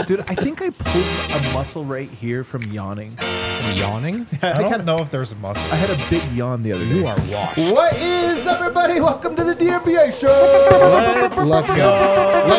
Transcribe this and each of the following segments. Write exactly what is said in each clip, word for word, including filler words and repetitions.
Dude, I think I pulled a muscle right here from yawning. From yawning? Yeah, I, I don't don't know if there's a muscle. I had a big yawn the other day. You are washed. What is up, everybody? Welcome to the D M B A show. Let's Let's go. Let's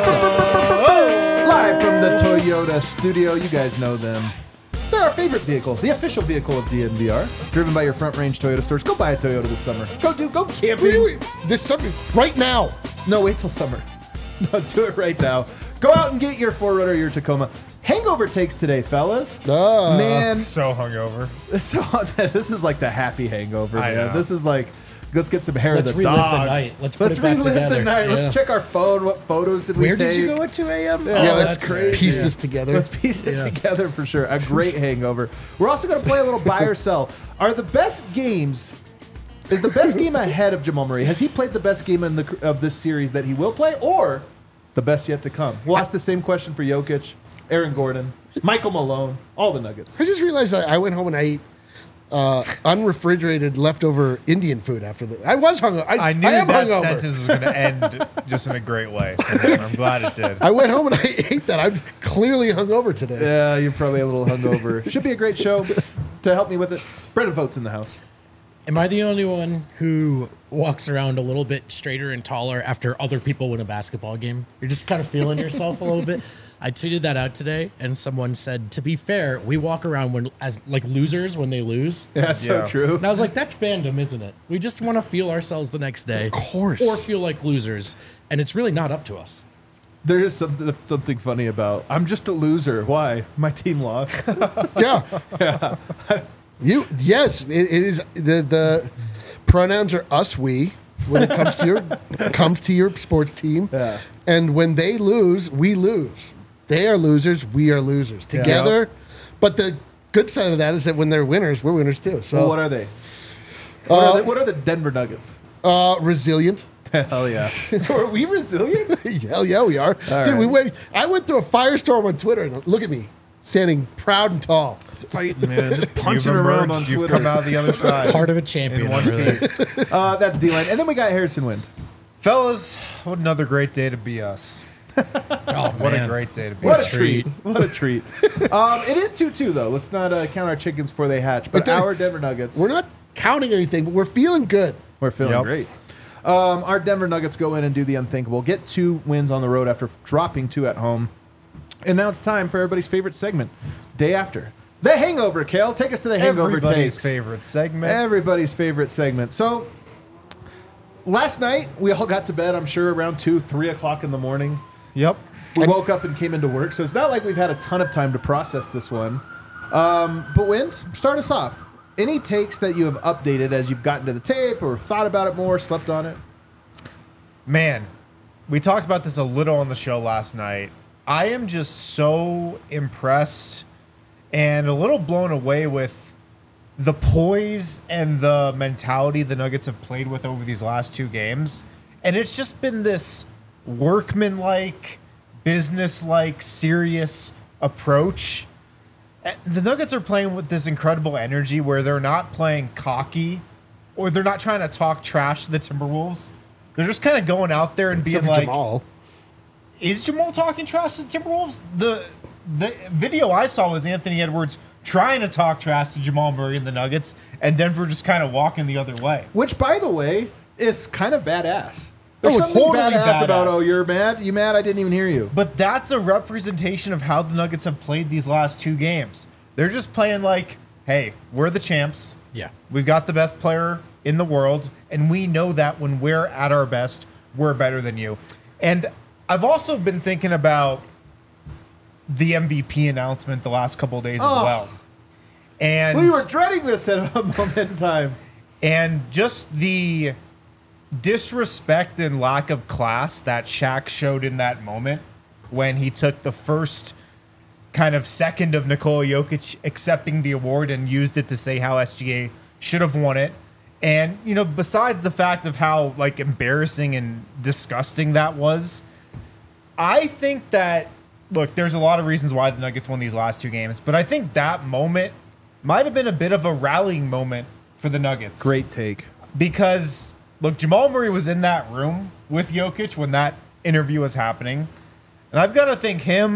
go. Live from the Toyota studio. You guys know them. They're our favorite vehicle, the official vehicle of D M V R. Driven by your front range Toyota stores. Go buy a Toyota this summer. Go do, go camping. Wait, wait, this summer, right now. No, wait till summer. No, do it right now. Go out and get your four runner, your Tacoma. Hangover takes today, fellas. Uh, Man, So hungover. so, this is like the happy hangover, I man. know. This is like, let's get some hair Let's of the relive dog. the night. Let's put Let's it back relive together. the night. Yeah. Let's check our phone. What photos did we Where take? did you go at two a.m.? Yeah, yeah, Oh, let's that's great. piece Yeah. this together. Let's piece it Yeah. together for sure. A great hangover. We're also going to play a little buy or sell. Are the best games? Is the best game ahead of Jamal Murray? Has he played the best game in the of this series that he will play, or the best yet to come? We'll ask the same question for Jokic, Aaron Gordon, Michael Malone, all the Nuggets. I just realized I, I went home and I ate uh, unrefrigerated leftover Indian food after the. I was hungover. I, I knew I am that hungover. sentence was going to end just in a great way. And I'm glad it did. I went home and I ate that. I'm clearly hungover today. Yeah, you're probably a little hungover. Should be a great show. To help me with it, Brendan Votes in the house. Am I the only one who walks around a little bit straighter and taller after other people win a basketball game? You're just kind of feeling yourself a little bit. I tweeted that out today, and someone said, "To be fair, we walk around when as like losers when they lose." Yeah, that's Yeah. so true. And I was like, "That's fandom, isn't it? We just want to feel ourselves the next day, Of course. or feel like losers, and it's really not up to us." There is something, something funny about, I'm just a loser. Why? My team lost. Yeah. You yes, it, it is the the pronouns are us we when it comes to your comes to your sports team. Yeah. And when they lose, we lose. They are losers, we are losers. Together. But the good side of that is that when they're winners, we're winners too. So Well, what are they? What, are they? What are the Denver Nuggets? uh resilient. Hell yeah. So are we resilient? Hell yeah, we are. All Dude, we right. went I went through a firestorm on Twitter and look at me. Standing proud and tall. Fighting, man. Just You've punching around on emerged. You've Twitter. come out the other side. Part of a champion. in one over there. piece. Uh, that's D-line. And then we got Harrison Wind. Fellas, what another great day to be us. Oh, What man. a great day to be What us. a treat. What a treat. Um, it is two two, though. Let's not uh, count our chickens before they hatch. But But don't- our Denver Nuggets, We're not counting anything, but we're feeling good. we're feeling Yep. great. Um, our Denver Nuggets go in and do the unthinkable. Get two wins on the road after dropping two at home. And now it's time for everybody's favorite segment, Day After. The Hangover, Kale. Take us to the Hangover Everybody's takes. favorite segment. Everybody's favorite segment. So, last night, we all got to bed, I'm sure, around two, three o'clock in the morning. Yep. We woke up and came into work, so it's not like we've had a ton of time to process this one. Um, but Wins, start us off. Any takes that you have updated as you've gotten to the tape or thought about it more, slept on it? Man, we talked about this a little on the show last night. I am just so impressed and a little blown away with the poise and the mentality the Nuggets have played with over these last two games. And it's just been this workman-like, business-like, serious approach. Uh, The Nuggets are playing with this incredible energy where they're not playing cocky or they're not trying to talk trash to the Timberwolves. They're just kind of going out there and being Except for like, Jamal. is Jamal talking trash to the Timberwolves? The the video I saw was Anthony Edwards trying to talk trash to Jamal Murray and the Nuggets, and Denver just kind of walking the other way. Which, by the way, is kind of badass. Oh, There's it's something totally badass, about, badass. oh, you're mad? You mad? I didn't even hear you. But that's a representation of how the Nuggets have played these last two games. They're just playing like, hey, we're the champs. Yeah. We've got the best player in the world, and we know that when we're at our best, we're better than you. And I've also been thinking about the M V P announcement the last couple of days Oh. as well. And We were dreading this at a moment in time. and just the disrespect and lack of class that Shaq showed in that moment when he took the first kind of second of Nikola Jokic accepting the award and used it to say how S G A should have won it. And, you know, besides the fact of how, like, embarrassing and disgusting that was, I think that, look, there's a lot of reasons why the Nuggets won these last two games, but I think that moment might have been a bit of a rallying moment for the Nuggets. Great take. Because, look, Jamal Murray was in that room with Jokic when that interview was happening. And I've got to think him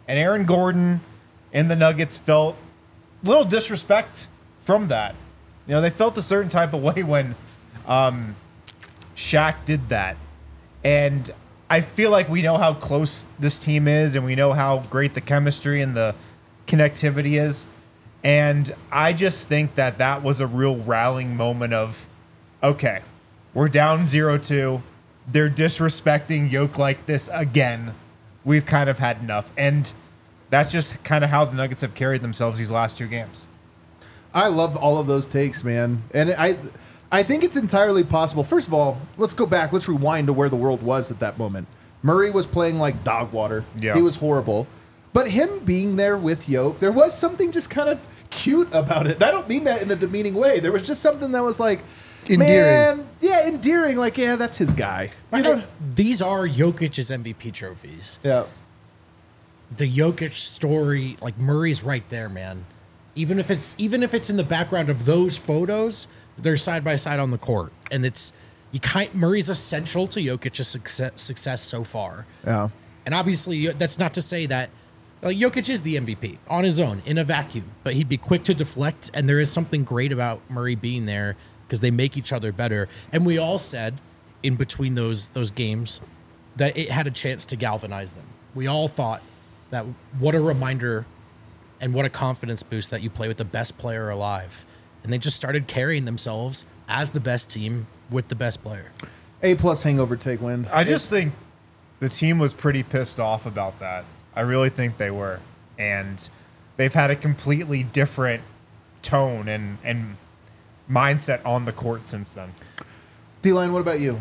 And Aaron Gordon and the Nuggets felt a little disrespect from that. You know, they felt a certain type of way when um, Shaq did that. And I feel like we know how close this team is, and we know how great the chemistry and the connectivity is. And I just think that that was a real rallying moment of, okay, we're down zero two. They're disrespecting Yoke like this again. We've kind of had enough. And that's just kind of how the Nuggets have carried themselves these last two games. I love all of those takes, man. And I I think it's entirely possible. First of all, let's go back. Let's rewind to where the world was at that moment. Murray was playing like dog water. Yeah. He was horrible. But him being there with Yoke, there was something just kind of cute about it. And I don't mean that in a demeaning way. There was just something that was like, Endearing. man, yeah, endearing. Like, yeah, that's his guy. You know? These are Jokic's M V P trophies. Yeah. The Jokic story, like Murray's right there, man. Even if it's even if it's in the background of those photos, they're side by side on the court, and it's you kind Murray's essential to Jokic's success, success so far. Yeah. And obviously, that's not to say that like Jokic is the M V P on his own in a vacuum, but he'd be quick to deflect, and there is something great about Murray being there because they make each other better. And we all said in between those those games that it had a chance to galvanize them. We all thought that what a reminder and what a confidence boost that you play with the best player alive. And they just started carrying themselves as the best team with the best player. A plus hangover take win. I just think the team was pretty pissed off about that. I really think they were. And they've had a completely different tone and, and mindset on the court since then. D-Line, what about you?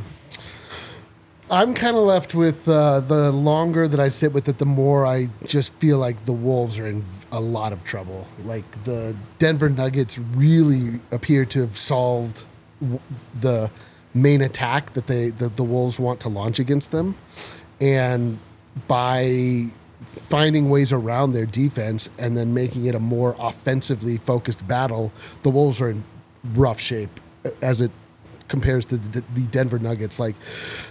I'm kind of left with uh, the longer that I sit with it, the more I just feel like the Wolves are in a lot of trouble. Like the Denver Nuggets really appear to have solved w- the main attack that they that the Wolves want to launch against them, and by finding ways around their defense and then making it a more offensively focused battle, the Wolves are in rough shape as it compares to the, the Denver Nuggets. Like.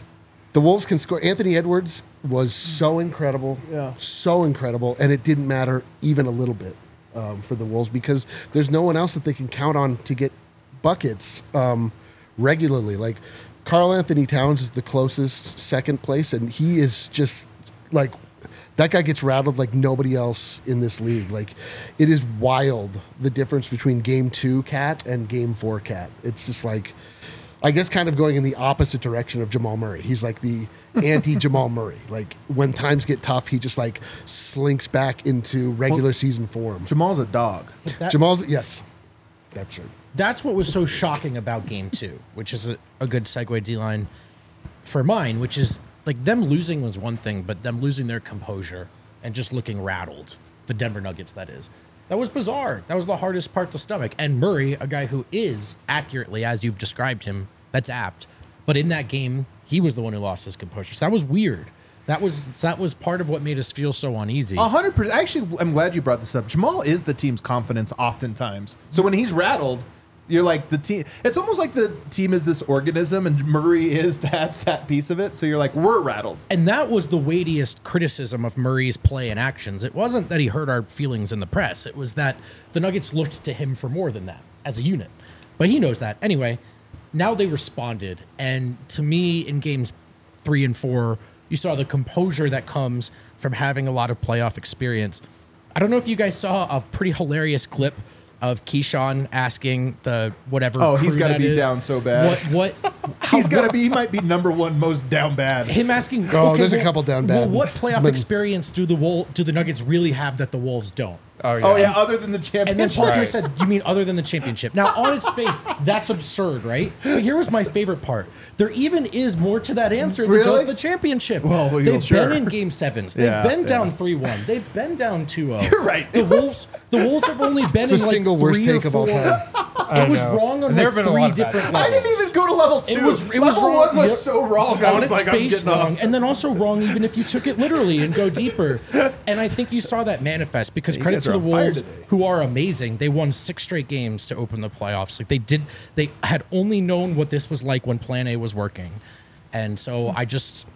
The Wolves can score. Anthony Edwards was so incredible, Yeah. so incredible, and it didn't matter even a little bit um, for the Wolves because there's no one else that they can count on to get buckets um, regularly. Like Karl Anthony Towns is the closest second place, and he is just like that guy gets rattled like nobody else in this league. Like it is wild the difference between game two Cat and game four Cat. It's just like. I guess kind of going in the opposite direction of Jamal Murray. He's like the anti-Jamal Murray. Like when times get tough, he just like slinks back into regular Well, season form. Jamal's a dog. That- Jamal's yes, that's right. That's what was so shocking about game two, which is a, a good segue D-line for mine, which is like them losing was one thing, but them losing their composure and just looking rattled, the Denver Nuggets, that is. That was bizarre. That was the hardest part to stomach. And Murray, a guy who is accurately, as you've described him, that's apt. But in that game, he was the one who lost his composure. So that was weird. That was that was part of what made us feel so uneasy. A hundred percent. Actually, I'm glad you brought this up. Jamal is the team's confidence oftentimes. So when he's rattled, you're like the team. It's almost like the team is this organism, and Murray is that that piece of it. So you're like, we're rattled. And that was the weightiest criticism of Murray's play and actions. It wasn't that he hurt our feelings in the press. It was that the Nuggets looked to him for more than that as a unit. But he knows that. Anyway, now they responded. And to me, in games three and four, you saw the composure that comes from having a lot of playoff experience. I don't know if you guys saw a pretty hilarious clip of Keyshawn asking the whatever. Oh, he's got got to be down so bad. What? What? He's got to be. He might be number one most down bad. Him asking. Oh, okay, there's a well- couple down Well, bad. what playoff But- experience do the Wol- do the Nuggets really have that the Wolves don't? Oh, yeah. Oh yeah, other than the And then championship. Paul Pierce Right. said, "You mean other than the championship?" Now, on its face, that's absurd, right? But here was my favorite part: there even is more to that answer than Really? just the championship. Well, well, They've sure. been in game sevens. They've Yeah, been down yeah. three one. They've been down two zero. You're right. The It was- Wolves, the Wolves have only been It's the in like single worst three or take of all four- time. It was know. wrong on And there like have been a three lot of bad different takes. I levels. didn't even go to level two. It was it was level wrong. one was Yep. so wrong. I On was its like, I'm face getting wrong, off. and then also wrong even if you took it literally and go deeper. And I think you saw that manifest because You credit guys to are the on fire Wolves, today. who are amazing. They won six straight games to open the playoffs. Like they did, they had only known what this was like when Plan A was working, and so I just.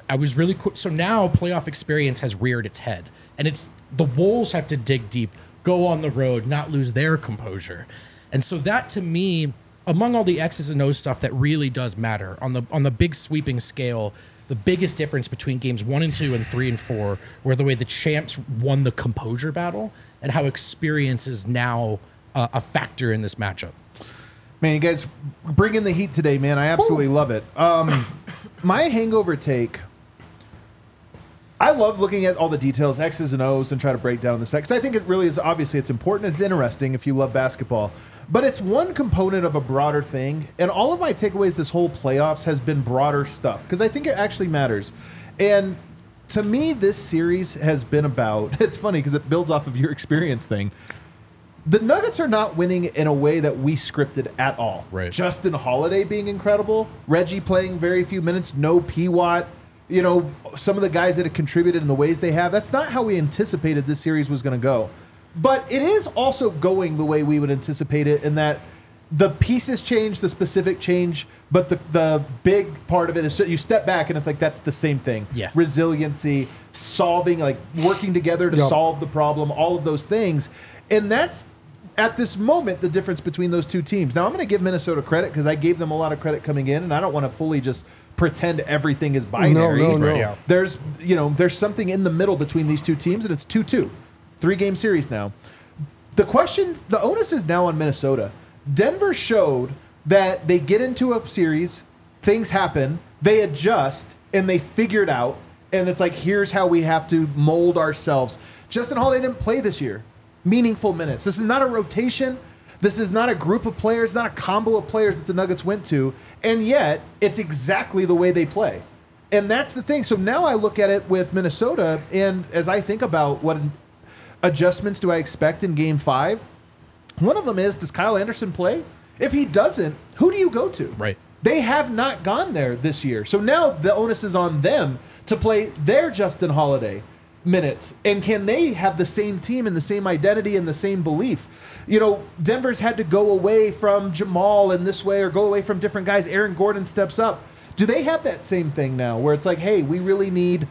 I was really cool. So now playoff experience has reared its head, and it's the Wolves have to dig deep, go on the road, not lose their composure. And so that to me, among all the X's and O's stuff that really does matter on the on the big sweeping scale, the biggest difference between games one and two and three and four were the way the champs won the composure battle and how experience is now uh, a factor in this matchup. Man, you guys bring in the heat today, man. I absolutely Ooh. love it. Um, my hangover take, I love looking at all the details, X's and O's, and try to break down the sex. I think it really is, obviously, it's important. It's interesting if you love basketball. But it's one component of a broader thing. And all of my takeaways this whole playoffs has been broader stuff, because I think it actually matters. And to me, this series has been about, it's funny because it builds off of your experience thing. The Nuggets are not winning in a way that we scripted at all. Right. Justin Holiday being incredible, Reggie playing very few minutes, no P-Watt, you know, some of the guys that have contributed in the ways they have. That's not how we anticipated this series was going to go. But it is also going the way we would anticipate it, in that the pieces change, the specific change, but the the big part of it is so you step back and it's like that's the same thing. Yeah. Resiliency, solving, like working together to Yep. solve the problem, all of those things. And that's, at this moment, the difference between those two teams. Now, I'm going to give Minnesota credit because I gave them a lot of credit coming in, and I don't want to fully just pretend everything is binary. No, no, no. Yeah. There's, you know, there's something in the middle between these two teams, and it's two two. Three-game series now. The question, the onus is now on Minnesota. Denver showed that they get into a series, things happen, they adjust, and they figure it out, and it's like, here's how we have to mold ourselves. Justin Holiday didn't play this year. Meaningful minutes. This is not a rotation. This is not a group of players, not a combo of players that the Nuggets went to, and yet it's exactly the way they play. And that's the thing. So now I look at it with Minnesota, and as I think about what adjustments do I expect in game five, one of them is, does Kyle Anderson play? If he doesn't, who do you go to? Right. They have not gone there this year. So now the onus is on them to play their Justin Holiday minutes. And can they have the same team and the same identity and the same belief? You know, Denver's had to go away from Jamal in this way or go away from different guys. Aaron Gordon steps up. Do they have that same thing now where it's like, hey, we really need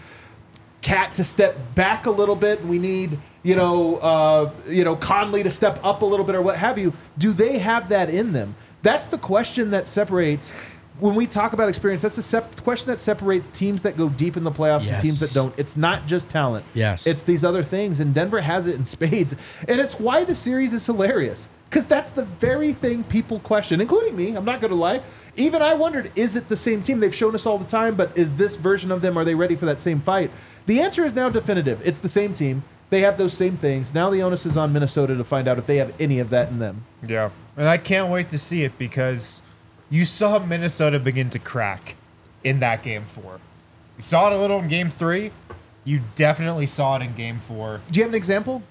Cat to step back a little bit, and we need, you know, uh, you know, Conley to step up a little bit or what have you? Do they have that in them? That's the question that separates, when we talk about experience, that's the sep- question that separates teams that go deep in the playoffs Yes. and teams that don't. It's not just talent. Yes. It's these other things, and Denver has it in spades. And it's why the series is hilarious, because that's the very thing people question, including me. I'm not going to lie. Even I wondered, is it the same team? They've shown us all the time, but is this version of them, are they ready for that same fight? The answer is now definitive. It's the same team. They have those same things. Now the onus is on Minnesota to find out if they have any of that in them. Yeah. And I can't wait to see it, because you saw Minnesota begin to crack in that game four. You saw it a little in game three. You definitely saw it in game four. Do you have an example?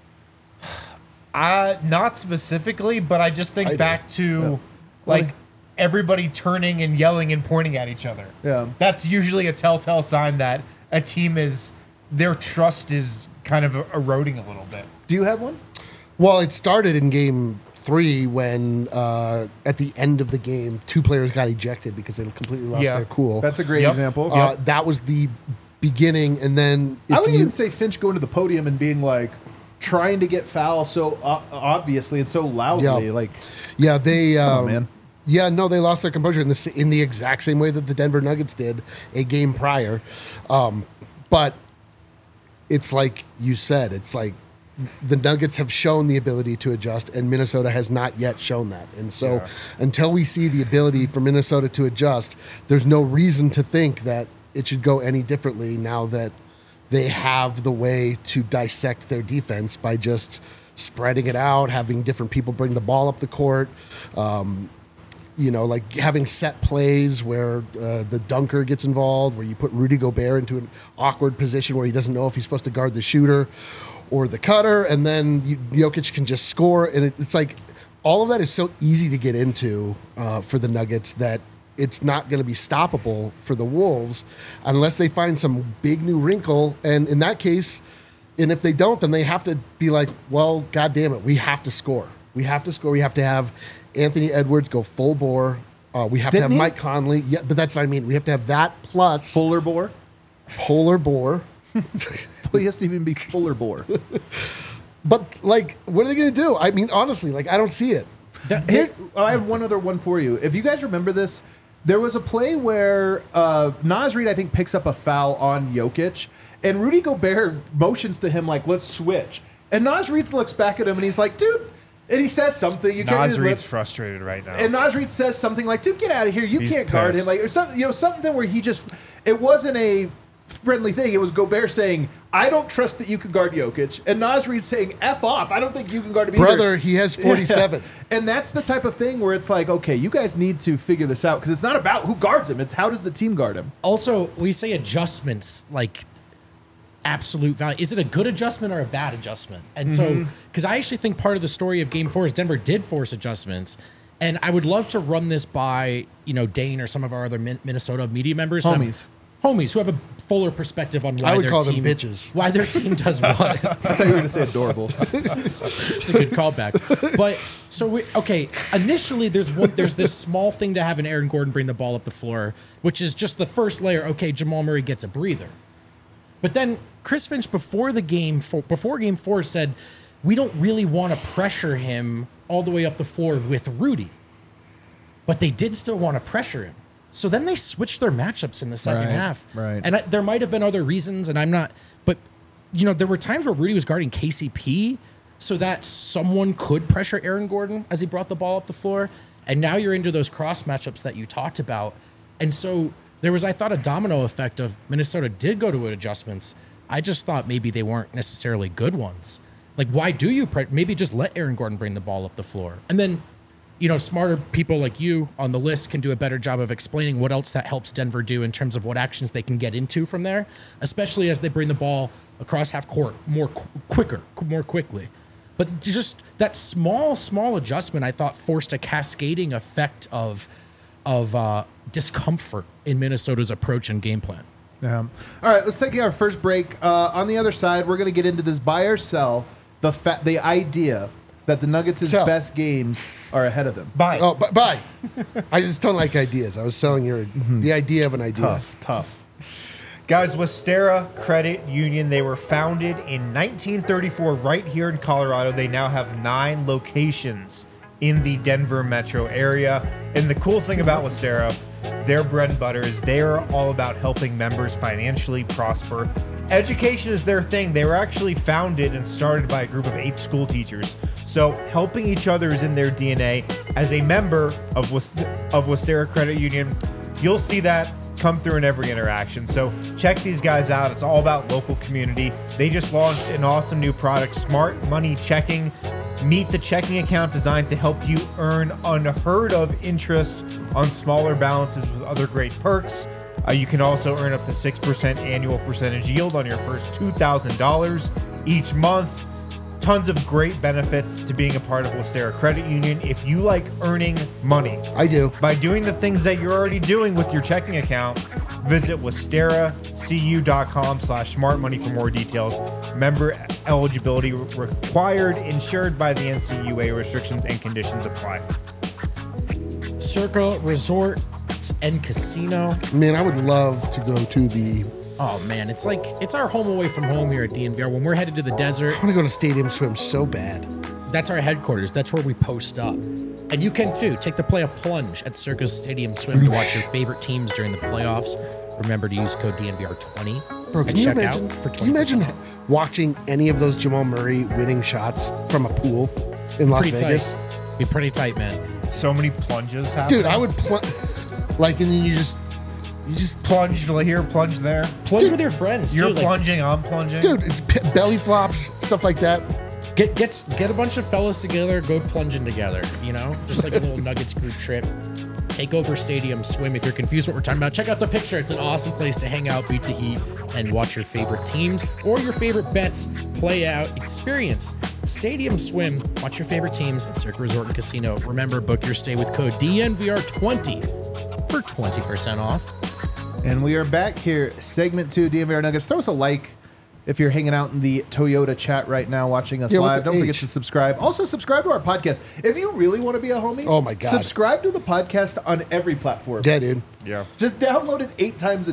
Uh, not specifically, but I just think I do. back to Yeah. like everybody turning and yelling and pointing at each other. Yeah. That's usually a telltale sign that a team is, their trust is kind of eroding a little bit. Do you have one? Well, it started in game three when uh, at the end of the game, two players got ejected because they completely lost Yeah. their cool. That's a great Yep. example. uh, That was the beginning, and then if I would you, even say Finch going to the podium and being like, trying to get foul so uh, obviously and so loudly. Yeah. Like, yeah, they come um, on, man. Yeah, no, they lost their composure in the s- in the exact same way that the Denver Nuggets did a game prior. Um, but it's like you said, it's like the Nuggets have shown the ability to adjust, and Minnesota has not yet shown that. And so Yeah. until we see the ability for Minnesota to adjust, there's no reason to think that it should go any differently now that they have the way to dissect their defense by just spreading it out, having different people bring the ball up the court. Um, you know, like having set plays where uh, the dunker gets involved, where you put Rudy Gobert into an awkward position where he doesn't know if he's supposed to guard the shooter or the cutter, and then you, Jokic can just score. And it, it's like all of that is so easy to get into uh, for the Nuggets that it's not going to be stoppable for the Wolves unless they find some big new wrinkle. And in that case, and if they don't, then they have to be like, well, God damn it, we have to score. We have to score. We have to have Anthony Edwards go full bore. Uh, we have Didn't to have he? Mike Conley. Yeah, but that's what I mean. We have to have that plus Fuller bore. polar boar. Well, he has to even be fuller bore. But like, what are they going to do? I mean, honestly, like, I don't see it. That- Here, oh, I have one other one for you. If you guys remember this, there was a play where uh, Naz Reid, I think, picks up a foul on Jokic, and Rudy Gobert motions to him like, "Let's switch." And Naz Reid looks back at him and he's like, "Dude," and he says something. You can't. Nas Reed's frustrated right now. And Naz Reid says something like, "Dude, get out of here! You He's can't guard him!" pissed. Like, or something, you know, something where he just. It wasn't a friendly thing. It was Gobert saying, "I don't trust that you can guard Jokic," and Naz Reid saying, "F off! I don't think you can guard him either." Brother, he has forty-seven. Yeah. And that's the type of thing where it's like, okay, you guys need to figure this out because it's not about who guards him; it's how does the team guard him. Also, we say adjustments like absolute value. Is it a good adjustment or a bad adjustment? And so, because I actually think part of the story of Game Four is Denver did force adjustments, and I would love to run this by you know Dane or some of our other Min- Minnesota media members, who have- Homies. homies who have a fuller perspective on why I would their call them team, bitches. why their team does what. I thought you were going to say adorable. It's a good callback. But so we okay. Initially, there's one, there's this small thing to have an Aaron Gordon bring the ball up the floor, which is just the first layer. Okay, Jamal Murray gets a breather. But then Chris Finch before the game for, before game four said we don't really want to pressure him all the way up the floor with Rudy, but they did still want to pressure him. So then they switched their matchups in the second Right, half. right. And I, there might have been other reasons, and I'm not. But you know, there were times where Rudy was guarding K C P, so that someone could pressure Aaron Gordon as he brought the ball up the floor. And now you're into those cross matchups that you talked about, and so there was, I thought, a domino effect of Minnesota did go to adjustments. I just thought maybe they weren't necessarily good ones. Like, why do you pre- maybe just let Aaron Gordon bring the ball up the floor, and then. You know, smarter people like you on the list can do a better job of explaining what else that helps Denver do in terms of what actions they can get into from there, especially as they bring the ball across half court more qu- quicker, qu- more quickly. But just that small, small adjustment, I thought, forced a cascading effect of of uh, discomfort in Minnesota's approach and game plan. Yeah. All right, let's take our first break. Uh, on the other side, we're going to get into this buy or sell, the fa- the idea that the Nuggets' Sell. best games are ahead of them. Bye. Oh, but bye. I just don't like ideas. I was selling your the idea of an idea. Tough, tough. Guys, Westera Credit Union, they were founded in nineteen thirty-four right here in Colorado. They now have nine locations in the Denver metro area. And the cool thing about Westera, their bread and butter is they are all about helping members financially prosper. Education is their thing. They were actually founded and started by a group of eight school teachers. So helping each other is in their D N A. As a member of West- of Westera Credit Union, you'll see that come through in every interaction. So check these guys out. It's all about local community. They just launched an awesome new product, Smart Money Checking. Meet the checking account designed to help you earn unheard of interest on smaller balances with other great perks. Uh, you can also earn up to six percent annual percentage yield on your first two thousand dollars each month. Tons of great benefits to being a part of Westera Credit Union. If you like earning money I do. by doing the things that you're already doing with your checking account, visit westeracu.com slash smart money for more details. Member eligibility required, insured by the N C U A. Restrictions and conditions apply. Circa Resort and Casino. Man, I would love to go to the. Oh man, it's like it's our home away from home here at D N V R. When we're headed to the desert, I want to go to Stadium Swim so bad. that's our headquarters. That's where we post up. And you can too. Take the play a plunge at Circus Stadium Swim to watch your favorite teams during the playoffs. Remember to use code D N V R twenty Bro, can and you check imagine? out for Can you twenty imagine percent off. watching any of those Jamal Murray winning shots from a pool in Las Pretty Vegas? tight. Be pretty tight, man. So many plunges happening. Dude, I would pl- like, and then you just, you just, plunge here, plunge there. Plunge Dude, with your friends. You're too. Like, plunging, I'm plunging. dude, it's p- belly flops, stuff like that. Get get get a bunch of fellas together, go plunging together. You know, just like a little Nuggets group trip. Take over Stadium Swim. If you're confused what we're talking about, check out the picture. It's an awesome place to hang out, beat the heat, and watch your favorite teams or your favorite bets play out. Experience Stadium Swim. Watch your favorite teams at Circa Resort and Casino. Remember, book your stay with code D N V R twenty for twenty percent off. And we are back here, segment two, D N V R Nuggets. Throw us a like if you're hanging out in the Toyota chat right now watching us Yeah, what's live. the Don't forget H? to subscribe. Also, subscribe to our podcast. If you really want to be a homie, Oh my God. subscribe to the podcast on every platform. Yeah, dude. Yeah. Just download it eight times a day.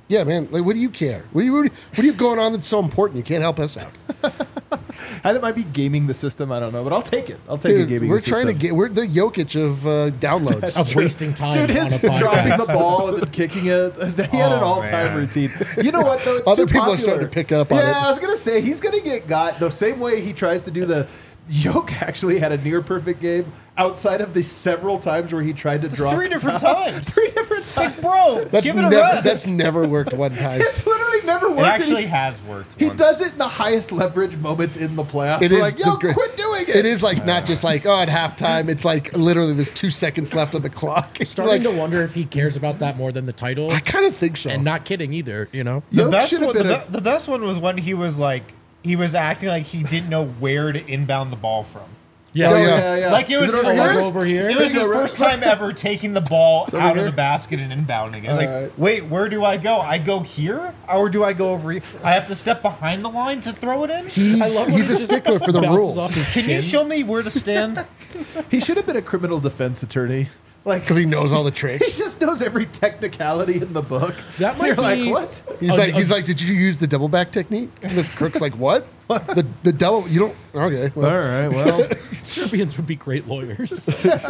Yeah, man. Like, what do you care? What do you, what do you, what do you have going on that's so important? You can't help us out. I think it might be gaming the system. I don't know, but I'll take it. I'll take Dude, it gaming we're the trying system. to get, we're the Jokic of uh, downloads. Of wasting time Dude, his on a podcast. dropping the ball and then kicking it. He had an Oh, all-time man. routine. You know what, though? It's Other too people are popular. starting to pick up on yeah, it. I was going to say, he's going to get got the same way he tries to do the... Yoke actually had a near-perfect game outside of the several times where he tried to drop... Three different times. Three different It's times. like, bro, That's give it a never, rest. that's never worked one time. It's literally never worked. it and actually he, has worked. he once. does it in the highest leverage moments in the playoffs. It We're is like, the yo, gr- quit doing it. It is like not just like, oh, at halftime, it's like literally there's two seconds left on the clock. It's Starting like, to wonder if he cares about that more than the title. I kind of think so. And not kidding either, you know? The Yoke best, should have one, the, been a- be- the best one was when he was like, he was acting like he didn't know where to inbound the ball from. Yeah. Oh, Oh, yeah. yeah, yeah. Like it was Is his over over first, here? Over here? It was his Over- first time ever taking the ball over out here? of the basket and inbounding. It's like, Alright. wait, where do I go? I go here, or do I go over here? I have to step behind the line to throw it in. He- I love when he's he a just stickler for the bounces rules off his Can you shin. show me where to stand? He should have been a criminal defense attorney. Like, because he knows all the he tricks. just knows every technicality in the book. That might You're be- like, what? He's A- like, a- he's like, did you use the double back technique? And the crook's like, what? The the double? You don't? Okay. Well, All right, well, Serbians would be great lawyers.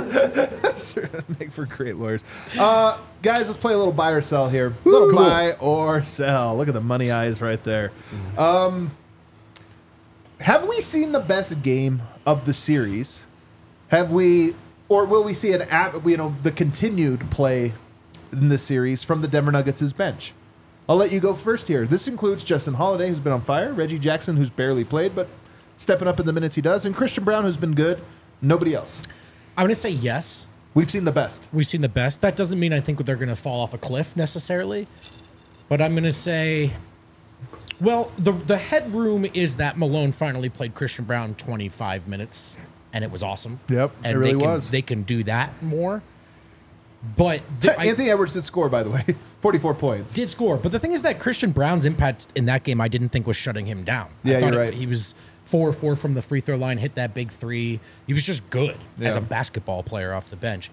make for great lawyers. Uh, guys, let's play a little buy or sell here. A little cool. buy or sell. Look at the money eyes right there. Um, have we seen the best game of the series? Have we, or will we see an app? You know, the continued play in the series from the Denver Nuggets' bench? I'll let you go first here. This includes Justin Holiday, who's been on fire, Reggie Jackson, who's barely played, but stepping up in the minutes he does, and Christian Brown, who's been good. Nobody else. I'm going to say yes. We've seen the best. We've seen the best. That doesn't mean I think they're going to fall off a cliff necessarily. But I'm going to say, well, the the headroom is that Malone finally played Christian Brown twenty-five minutes, and it was awesome. Yep, it and really they can, was. They can do that more. But the, I Anthony Edwards did score, by the way, forty-four points. did score. But the thing is that Christian Brown's impact in that game, I didn't think was shutting him down. Yeah, I thought you're it- right. He was four four from the free throw line, hit that big three. He was just good as Yeah. a basketball player off the bench.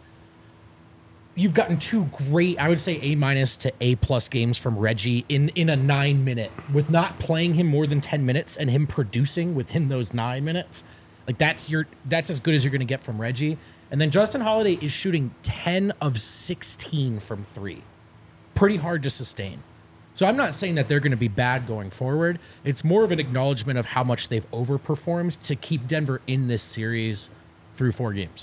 You've gotten two great, I would say A minus to A plus games from Reggie in, in a nine minute, with not playing him more than ten minutes and him producing within those nine minutes. Like that's your that's as good as you're going to get from Reggie. And then Justin Holiday is shooting ten of sixteen from three. Pretty hard to sustain. So I'm not saying that they're going to be bad going forward. It's more of an acknowledgement of how much they've overperformed to keep Denver in this series through four games.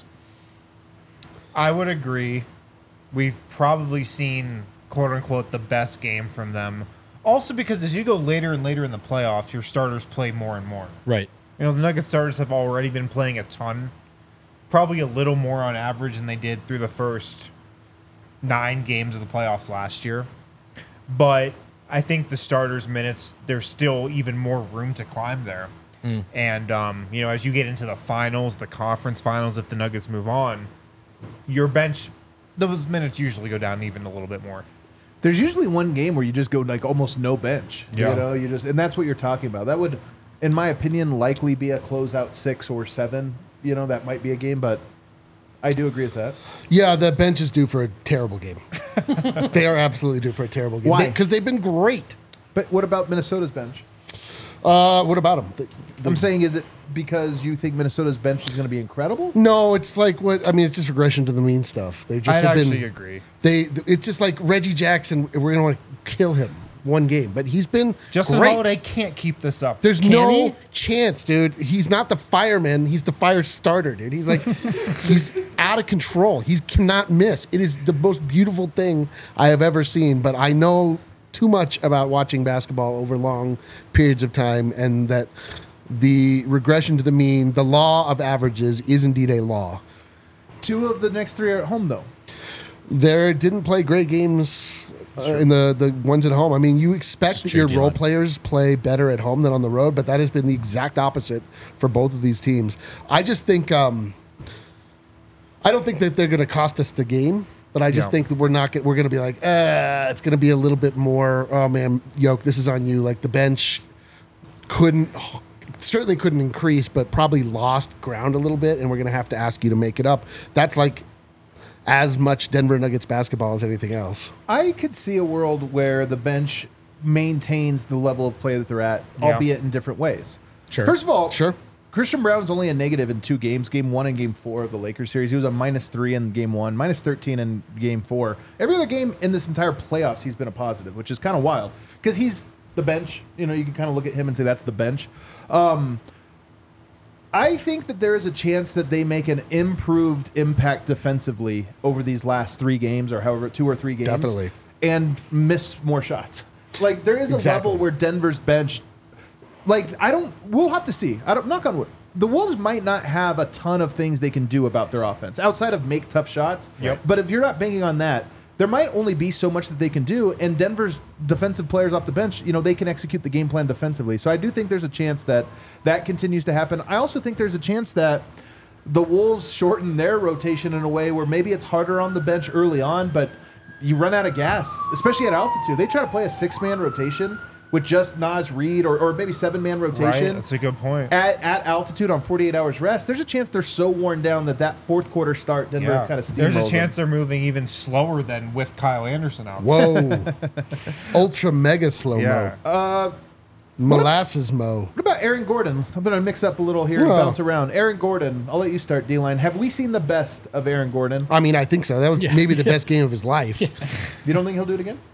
I would agree. We've probably seen, quote unquote, the best game from them. Also, because as you go later and later in the playoffs, your starters play more and more. Right. You know, the Nuggets starters have already been playing a ton, probably a little more on average than they did through the first nine games of the playoffs last year. But I think the starters' minutes, there's still even more room to climb there. And, um, you know, as you get into the finals, the conference finals, if the Nuggets move on, your bench, those minutes usually go down even a little bit more. There's usually one game where you just go like almost no bench. Yeah. You know, you just and that's what you're talking about. That would, in my opinion, likely be a closeout six or seven. You know, that might be a game, but I do agree with that. Yeah, the bench is due for a terrible game. They are absolutely due for a terrible game. Why? Because they've been great. But what about Minnesota's bench? Uh, what about them? They- they- I'm saying, is it because you think Minnesota's bench is going to be incredible? no, it's like what I mean. It's just regression to the mean stuff. They just I have actually been. agree. They. It's just like Reggie Jackson. We're gonna want to kill him one game, but he's been Justin great. Holiday can't keep this up. There's Can no he? chance, dude. He's not the fireman. He's the fire starter, dude. He's like, he's out of control. He cannot miss. It is the most beautiful thing I have ever seen. But I know too much about watching basketball over long periods of time, and that the regression to the mean, the law of averages, is indeed a law. Two of the next three are at home, though. There didn't play great games uh, in the, the ones at home. I mean, you expect It's that true, your role D-line. players play better at home than on the road, but that has been the exact opposite for both of these teams. I just think um, I don't think that they're going to cost us the game, but I just No. think that we're not. Get, we're going to be like, uh, it's going to be a little bit more. Oh man, Yoke, this is on you. Like the bench couldn't. Certainly couldn't increase, but probably lost ground a little bit, and we're going to have to ask you to make it up. That's like as much Denver Nuggets basketball as anything else. I could see a world where the bench maintains the level of play that they're at, Yeah. albeit in different ways. Sure. First of all, Sure. Christian Brown's only a negative in two games, game one and game four of the Lakers series. He was a minus three in game one, minus thirteen in game four. Every other game in this entire playoffs, he's been a positive, which is kind of wild because he's the bench. You know, you can kind of look at him and say that's the bench. Um, I think that there is a chance that they make an improved impact defensively over these last three games or however, two or three games. Definitely. And miss more shots. Like, there is a Exactly. level where Denver's bench, like, I don't, we'll have to see. I don't, knock on wood. The Wolves might not have a ton of things they can do about their offense outside of make tough shots. Yep. But if you're not banking on that, there might only be so much that they can do. And Denver's defensive players off the bench, you know, they can execute the game plan defensively. So I do think there's a chance that that continues to happen. I also think there's a chance that the Wolves shorten their rotation in a way where maybe it's harder on the bench early on, but you run out of gas, especially at altitude. They try to play a six-man rotation with just Naz Reid or, or maybe seven-man rotation. Right, that's a good point. At, at altitude on forty-eight hours rest, there's a chance they're so worn down that that fourth quarter start Denver Yeah. kind of steamrolled There's a them. chance they're moving even slower than with Kyle Anderson out. Whoa. Ultra mega slow Yeah. mo. Uh, Molasses mo. what about Aaron Gordon? I'm going to mix up a little here and Well. bounce around. Aaron Gordon, I'll let you start, D-Line. Have we seen the best of Aaron Gordon? I mean, I think so. That was Yeah. maybe the best game of his life. You don't think he'll do it again?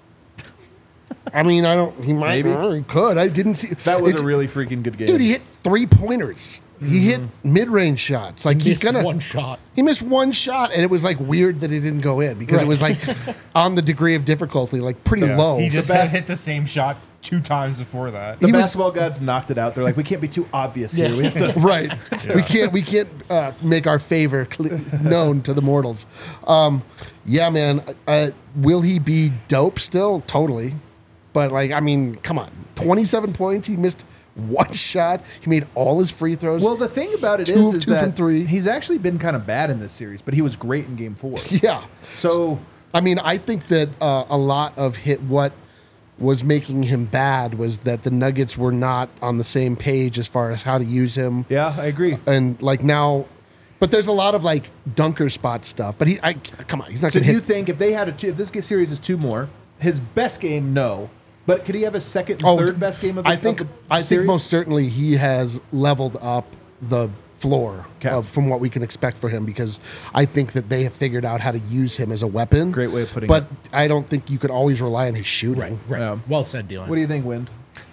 I mean, I don't. He might. Maybe. or he could. I didn't see. That was it's- a really freaking good game. Dude, he hit three pointers. He hit mid range shots. Like he's Missed gonna. one shot. He missed one shot, and it was like weird that it didn't go in because it was like on the degree of difficulty, like pretty Yeah. low. He just The had back- hit the same shot two times before that. the he was- basketball gods knocked it out. They're like, we can't be too obvious here. We have to. right. We can't. We can't uh, make our favor cle known to the mortals. Um, yeah, man. Uh, will he be dope still? Totally. But like, I mean, come on. Twenty-seven points. He missed one shot. He made all his free throws. Well, the thing about it Two is, of is two from that three. he's actually been kind of bad in this series, but he was great in game four. yeah. So I mean, I think that uh, a lot of hit what was making him bad was that the Nuggets were not on the same page as far as how to use him. yeah, I agree. And like now, but there's a lot of like dunker spot stuff. But he, I come on, he's not So going do to you hit. think if they had a if this series is two more, his best game, no, but could he have a second and Oh, third best game of the I think of the I think series? most certainly he has leveled up the floor Okay. of, from what we can expect for him because I think that they have figured out how to use him as a weapon. Great way of putting but it. I don't think you could always rely on his shooting. Right. Right. Yeah. Well said, Dylan. What do you think, Wind?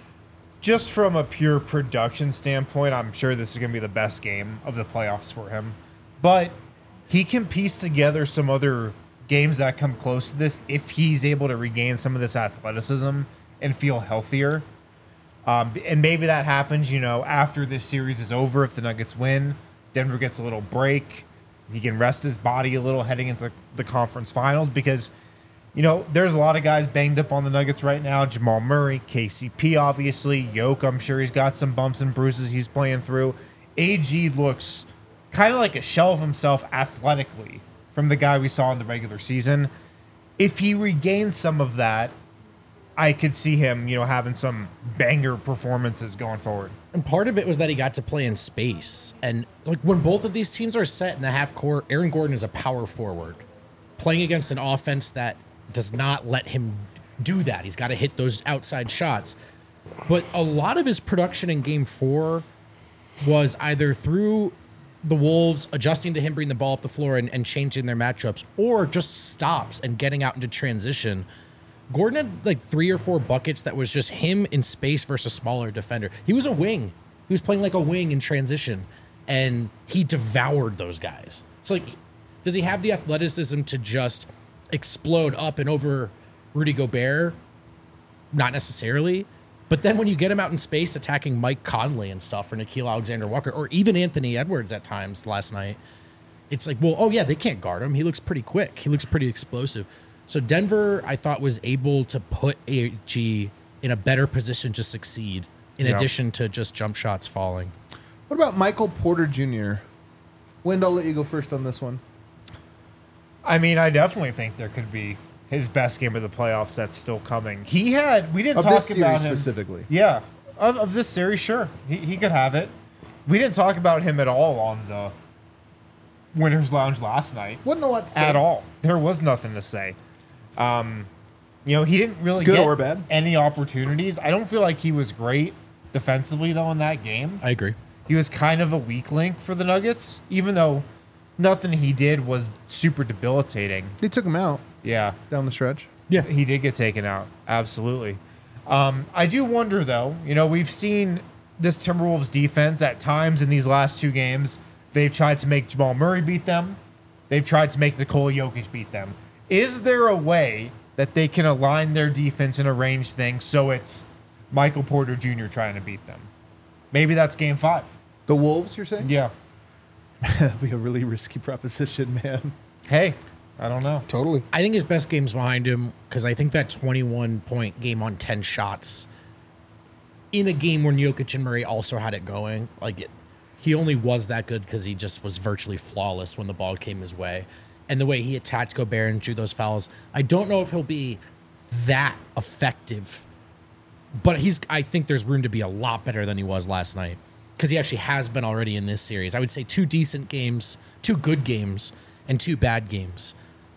Just from a pure production standpoint, I'm sure this is going to be the best game of the playoffs for him. But he can piece together some other games that come close to this if he's able to regain some of this athleticism and feel healthier. Um, and maybe that happens, you know, after this series is over. If the Nuggets win, Denver gets a little break. He can rest his body a little heading into the conference finals because, you know, there's a lot of guys banged up on the Nuggets right now. Jamal Murray, K C P, obviously. Yoke, I'm sure he's got some bumps and bruises he's playing through. A G looks kind of like a shell of himself athletically from the guy we saw in the regular season. If he regains some of that, I could see him, you know, having some banger performances going forward. And part of it was that he got to play in space. And like when both of these teams are set in the half court, Aaron Gordon is a power forward playing against an offense that does not let him do that. He's got to hit those outside shots. But a lot of his production in game four was either through the Wolves adjusting to him bringing the ball up the floor and, and changing their matchups, or just stops and getting out into transition. Gordon had like three or four buckets that was just him in space versus a smaller defender. He was a wing. He was playing like a wing in transition, and he devoured those guys. So, like, does he have the athleticism to just explode up and over Rudy Gobert? Not necessarily. But then when you get him out in space attacking Mike Conley and stuff, or Nickeil Alexander-Walker, or even Anthony Edwards at times last night, it's like, well, oh yeah, they can't guard him. He looks pretty quick. He looks pretty explosive. So Denver, I thought, was able to put A G in a better position to succeed, in Yeah. addition to just jump shots falling. What about Michael Porter Junior? Wind, I'll let you go first on this one. I mean, I definitely think there could be his best game of the playoffs that's still coming. He had, we didn't Of talk this about series him specifically. Yeah, of, of this series, sure, he, he could have it. We didn't talk about him at all on the Winners Lounge last night. Wouldn't know what to say. At all. There was nothing to say. Um, you know, he didn't really Good get or bad? any opportunities. I don't feel like he was great defensively, though, in that game. I agree. He was kind of a weak link for the Nuggets, even though nothing he did was super debilitating. They took him out Yeah, down the stretch. Yeah. he did get taken out. Absolutely. Um, I do wonder, though, you know, we've seen this Timberwolves defense at times in these last two games. They've tried to make Jamal Murray beat them. They've tried to make Nikola Jokic beat them. Is there a way that they can align their defense and arrange things so it's Michael Porter Junior trying to beat them? Maybe that's game five. The Wolves, you're saying? Yeah. That'd be a really risky proposition, man. Hey, I don't know. Totally. I think his best game's behind him because I think that twenty-one point game on ten shots in a game when Jokic and Murray also had it going, like it, he only was that good because he just was virtually flawless when the ball came his way. And the way he attacked Gobert and drew those fouls, I don't know if he'll be that effective, but he's. I think there's room to be a lot better than he was last night because he actually has been already in this series. I would say two decent games, two good games, and two bad games.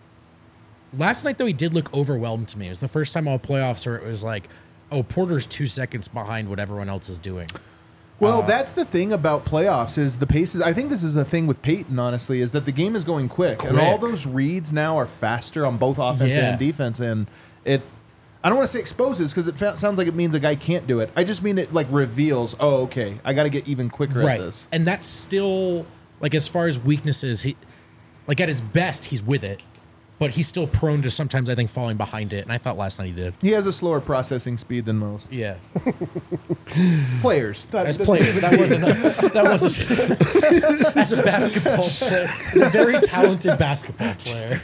Last night, though, he did look overwhelmed to me. It was the first time all playoffs where it was like, oh, Porter's two seconds behind what everyone else is doing. Well, that's the thing about playoffs is the pace is. I think this is a thing with Peyton, honestly, is that the game is going quick, and all Quick. those reads now are faster on both offense Yeah. and defense, and it. I don't want to say exposes because it fa- sounds like it means a guy can't do it. I just mean it like reveals. Oh, okay, I got to get even quicker at this. And that's still, like, as far as weaknesses, he, like, at his best, he's with it, but he's still prone to sometimes, I think, falling behind it. And I thought last night he did. He has a slower processing speed than most Yeah. players. Not- As this- players, that wasn't, a, that wasn't, as a basketball player, he's a very talented basketball player.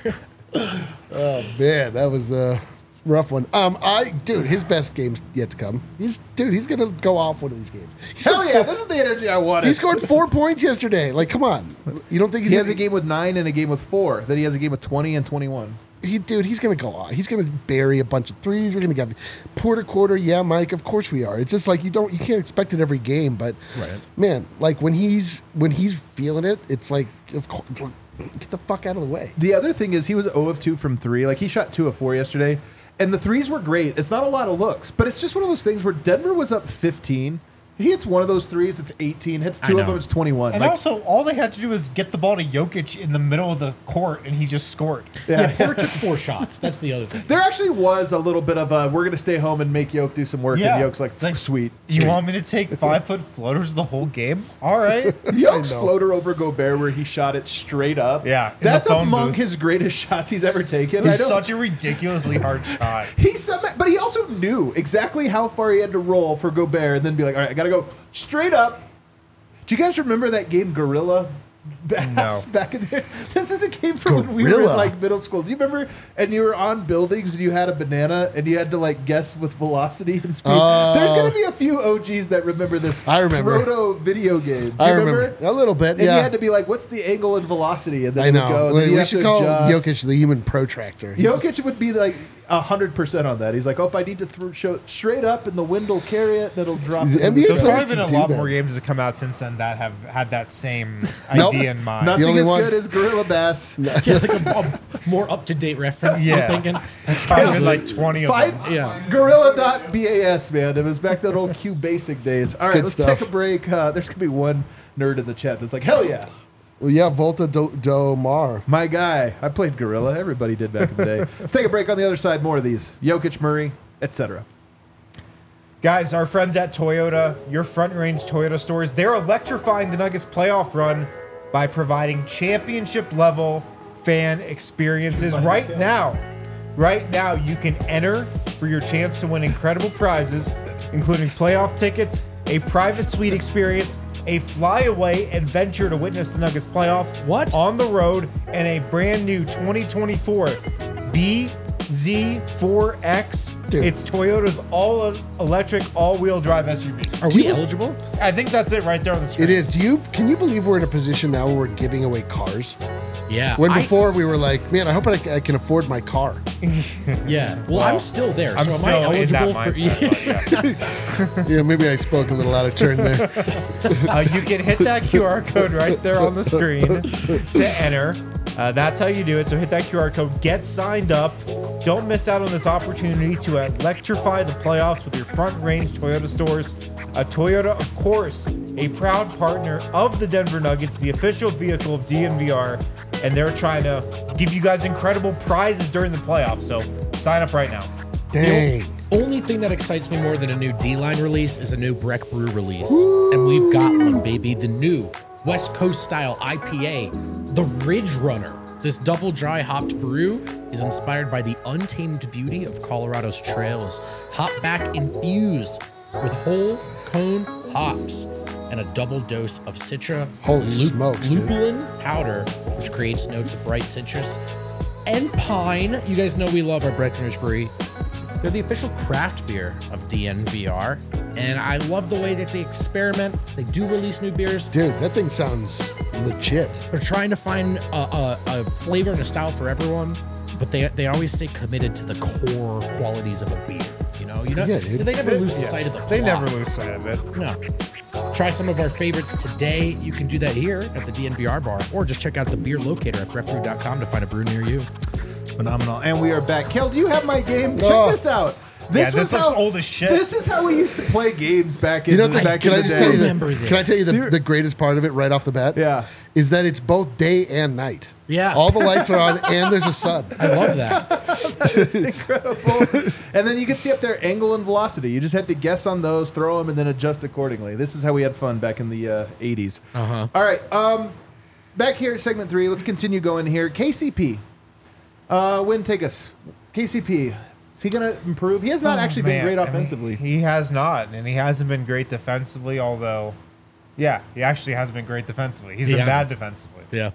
Man, that was a rough one. Um, I dude, his best game's yet to come. He's dude, he's gonna go off one of these games. He Hell scored yeah, four- this is the energy I wanted. He scored four points yesterday. Like, come on. You don't think he's He gonna, has a game with nine and a game with four. Then he has a game with twenty and twenty-one. He, dude, he's gonna go off. He's gonna bury a bunch of threes. We're gonna get quarter quarter. Yeah, Mike. Of course we are. It's just like you don't, you can't expect it every game. But Right. man, like when he's when he's feeling it, it's like, of course, get the fuck out of the way. The other thing is he was zero of two from three. Like he shot two of four yesterday, and the threes were great. It's not a lot of looks, but it's just one of those things where Denver was up fifteen. He hits one of those threes, it's eighteen. Hits I two of know. them, it's twenty-one. And Like, also, all they had to do was get the ball to Jokic in the middle of the court, and he just scored. Yeah, yeah. Porter took four shots. That's the other thing. There actually was a little bit of a we're going to stay home and make Yoke do some work, Yeah. and Yoke's like, Like, sweet. You want me to take five foot floaters the whole game? All right. Yoke's I know. floater over Gobert where he shot it straight up. Yeah, in the That's phone among booth. his greatest shots he's ever taken. I It's don't- such a ridiculously hard shot. He some, but he also knew exactly how far he had to roll for Gobert, and then be like, "All right, I got to go straight up." Do you guys remember that game, Gorilla? Bass No. back in there. This is a game from when we were in Gorilla. like middle school. Do you remember? And you were on buildings, and you had a banana, and you had to like guess with velocity and speed. Oh. There's gonna be a few O Gs that remember this. I remember. proto video game. Do you I remember a little bit. And yeah, you had to be like, "What's the angle and velocity?" And then I you would know. go. And we then you we have should to call adjust. Jokic the human protractor. He just- Jokic would be like hundred percent on that. He's like, "Oh, I need to throw show straight up, and the wind will carry it, and it'll drop." The it in N B A There's players probably been a can do lot that. more games that come out since then that have had that same Nope. idea in mind. Nothing only as one- good as Gorilla Bass. Yeah, like a, a more up to date reference. Yeah. I'm thinking. There's probably been like twenty of Find them. Yeah. Gorilla.bas, man. It was back that old Q Basic days. All right, good let's stuff. take a break. Uh, there's gonna be one nerd in the chat that's like, "Hell yeah, Well, yeah, Volta Do, Do Mar. my guy." I played Gorilla. Everybody did back in the day. Let's take a break. On the other side, more of these. Jokic, Murray, et cetera. Guys, our friends at Toyota, your front range Toyota stores, they're electrifying the Nuggets playoff run by providing championship level fan experiences right now. Right now, you can enter for your chance to win incredible prizes, including playoff tickets, a private suite experience, a flyaway adventure to witness the Nuggets playoffs What? on the road, and a brand new twenty twenty-four B Z four X. Dude. It's Toyota's all electric, all wheel drive S U V. Are we eligible? I think that's it right there on the screen. It is. Do you? Can you believe we're in a position now where we're giving away cars? Yeah. When I- before we were like, man, I hope I, c- I can afford my car. Yeah. Well, Well, I'm still there. I'm so am still I in that eligible for? mindset. but yeah. Yeah, maybe I spoke a little out of turn there. Uh, you can hit that Q R code right there on the screen to enter. Uh, that's how you do it. So hit that Q R code, get signed up. Don't miss out on this opportunity to electrify the playoffs with your front range Toyota stores. A Toyota, of course, a proud partner of the Denver Nuggets, the official vehicle of D N V R, and they're trying to give you guys incredible prizes during the playoffs. So sign up right now. Dang. Only thing that excites me more than a new D-Line release is a new Breck Brew release. And we've got one, baby. The new West Coast style I P A, the Ridge Runner. This double dry hopped brew is inspired by the untamed beauty of Colorado's trails. Hop back infused with whole cone hops and a double dose of Citra Holy smokes, dude. lupulin powder, which creates notes of bright citrus and pine. You guys know we love our Breckenridge Brewery. They're the official craft beer of D N V R, and I love the way that they experiment. They do release new beers. Dude, that thing sounds legit. They're trying to find a, a, a flavor and a style for everyone, but they they always stay committed to the core qualities of a beer. You know, you know, Yeah, dude. they never lose Yeah. sight of the. They plot. never lose sight of it. No. Try some of our favorites today. You can do that here at the D N V R bar, or just check out the beer locator at breck brew dot com to find a brew near you. Phenomenal. And we are back. Kel, do you have my game? Check Oh. this out. Yeah, was this looks how- old as shit. This is how we used to play games back in You know, the, the, back can in I the just day. tell you Remember the, can I tell you the, this. the greatest part of it right off the bat? Yeah. Is that it's both day and night. Yeah. All the lights are on and there's a sun. I love that. Incredible. And then you can see up there angle and velocity. You just had to guess on those, throw them, and then adjust accordingly. This is how we had fun back in the uh, eighties. Uh-huh. All right. Um, back here at segment three, let's continue going here. K C P. Uh, Win, take us. K C P. Is he going to improve? He has not Oh, actually man. been great I mean, offensively. he has not, and he hasn't been great defensively, although, yeah, he actually hasn't been great defensively. He's He been hasn't. bad defensively. Yeah.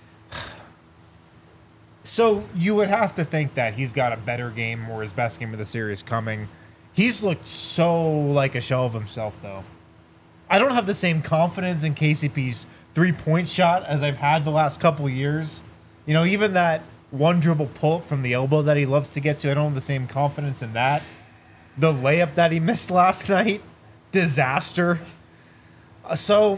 So you would have to think that he's got a better game or his best game of the series coming. He's looked so like a shell of himself, though. I don't have the same confidence in K C P's three-point shot as I've had the last couple of years. You know, even that one dribble pull-up from the elbow that he loves to get to, I don't have the same confidence in that. The layup that he missed last night, disaster. Uh, So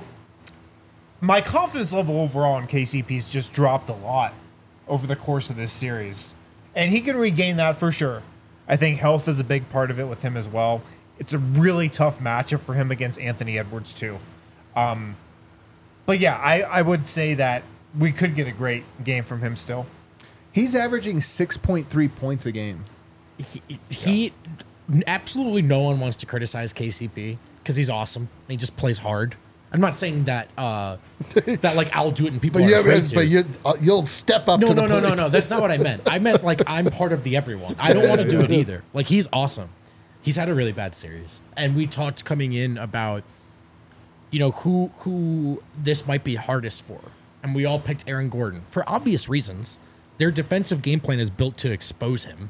my confidence level overall in K C P's just dropped a lot over the course of this series. And he can regain that for sure. I think health is a big part of it with him as well. It's a really tough matchup for him against Anthony Edwards, too. Um, but yeah, I, I would say that we could get a great game from him still. He's averaging six point three points a game. He, he absolutely no one wants to criticize K C P because he's awesome. He just plays hard. I'm not saying that uh, that like I'll do it and people But, are you afraid to. but you uh, you'll step up no, to no, the no, no, plate. no. That's not what I meant. I meant like I'm part of the everyone. I don't want to do it either. Like he's awesome. He's had a really bad series, and we talked coming in about you know who who this might be hardest for, and we all picked Aaron Gordon for obvious reasons. Their defensive game plan is built to expose him.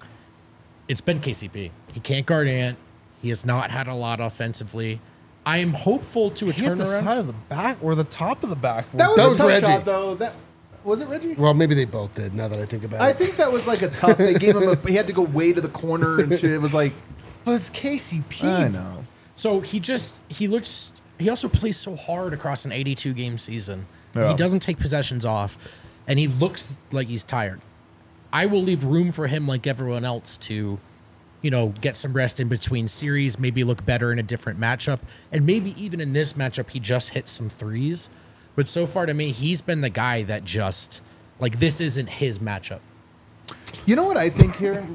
It's been K C P. He can't guard Ant. He has not had a lot offensively. I am hopeful to a He hit the turnaround. side of the back or the top of the back. That was That a was tough Reggie. shot, though. That was it, Reggie? Well, maybe they both did. Now that I think about I it, think that was like a tough. They gave him a. He had to go way to the corner and shit. It was like, But it's K C P. I know. So he just he looks he also plays so hard across an eighty-two game season. Yeah. He doesn't take possessions off, and he looks like he's tired. I will leave room for him, like everyone else, to, you know, get some rest in between series, maybe look better in a different matchup, and maybe even in this matchup he just hit some threes. But so far to me, he's been the guy that just like this isn't his matchup. You know what I think here?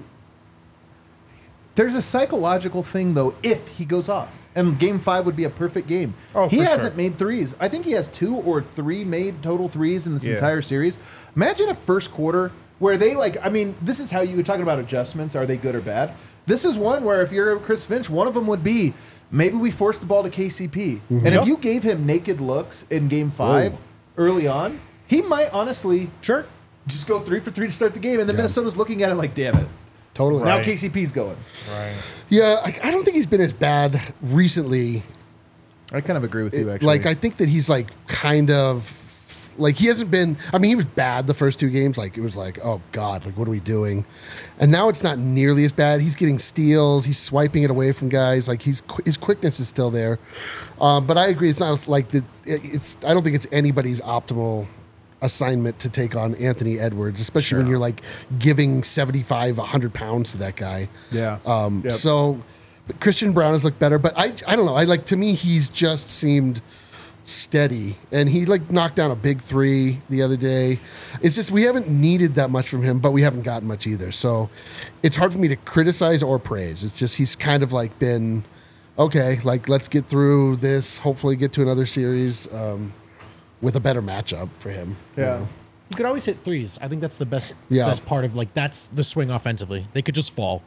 There's a psychological thing, though, if he goes off. And game five would be a perfect game. Oh, he for hasn't sure. made threes. I think he has two or three made total threes in this Yeah. entire series. Imagine a first quarter where they, like, I mean, this is how you were talking about adjustments. Are they good or bad? This is one where if you're Chris Finch, one of them would be maybe we force the ball to K C P. And if Yep. you gave him naked looks in game five Whoa. early on, he might honestly Sure. just go three for three to start the game. And then Yeah. Minnesota's looking at it like, damn it. totally. Now Right. K C P's going. Right. Yeah, I, I don't think he's been as bad recently. I kind of agree with you, actually. Like I think that he's like kind of Like he hasn't been. I mean, he was bad the first two games. Like it was like, oh god, like what are we doing? And now it's not nearly as bad. He's getting steals. He's swiping it away from guys. Like he's his quickness is still there. Um, but I agree. It's not like the, it's. I don't think it's anybody's optimal assignment to take on Anthony Edwards, especially Sure. when you're like giving seventy-five, one hundred pounds to that guy. Yeah. Um, Yep. So but Christian Brown has looked better, but I I don't know. I like to me he's just seemed steady, and he like knocked down a big three the other day. It's just we haven't needed that much from him, but we haven't gotten much either. So it's hard for me to criticize or praise. It's just he's kind of like been okay. Like let's get through this. Hopefully, get to another series um, with a better matchup for him. you Yeah. know. You could always hit threes. I think that's the best Yeah. best part of like that's the swing offensively. They could just fall.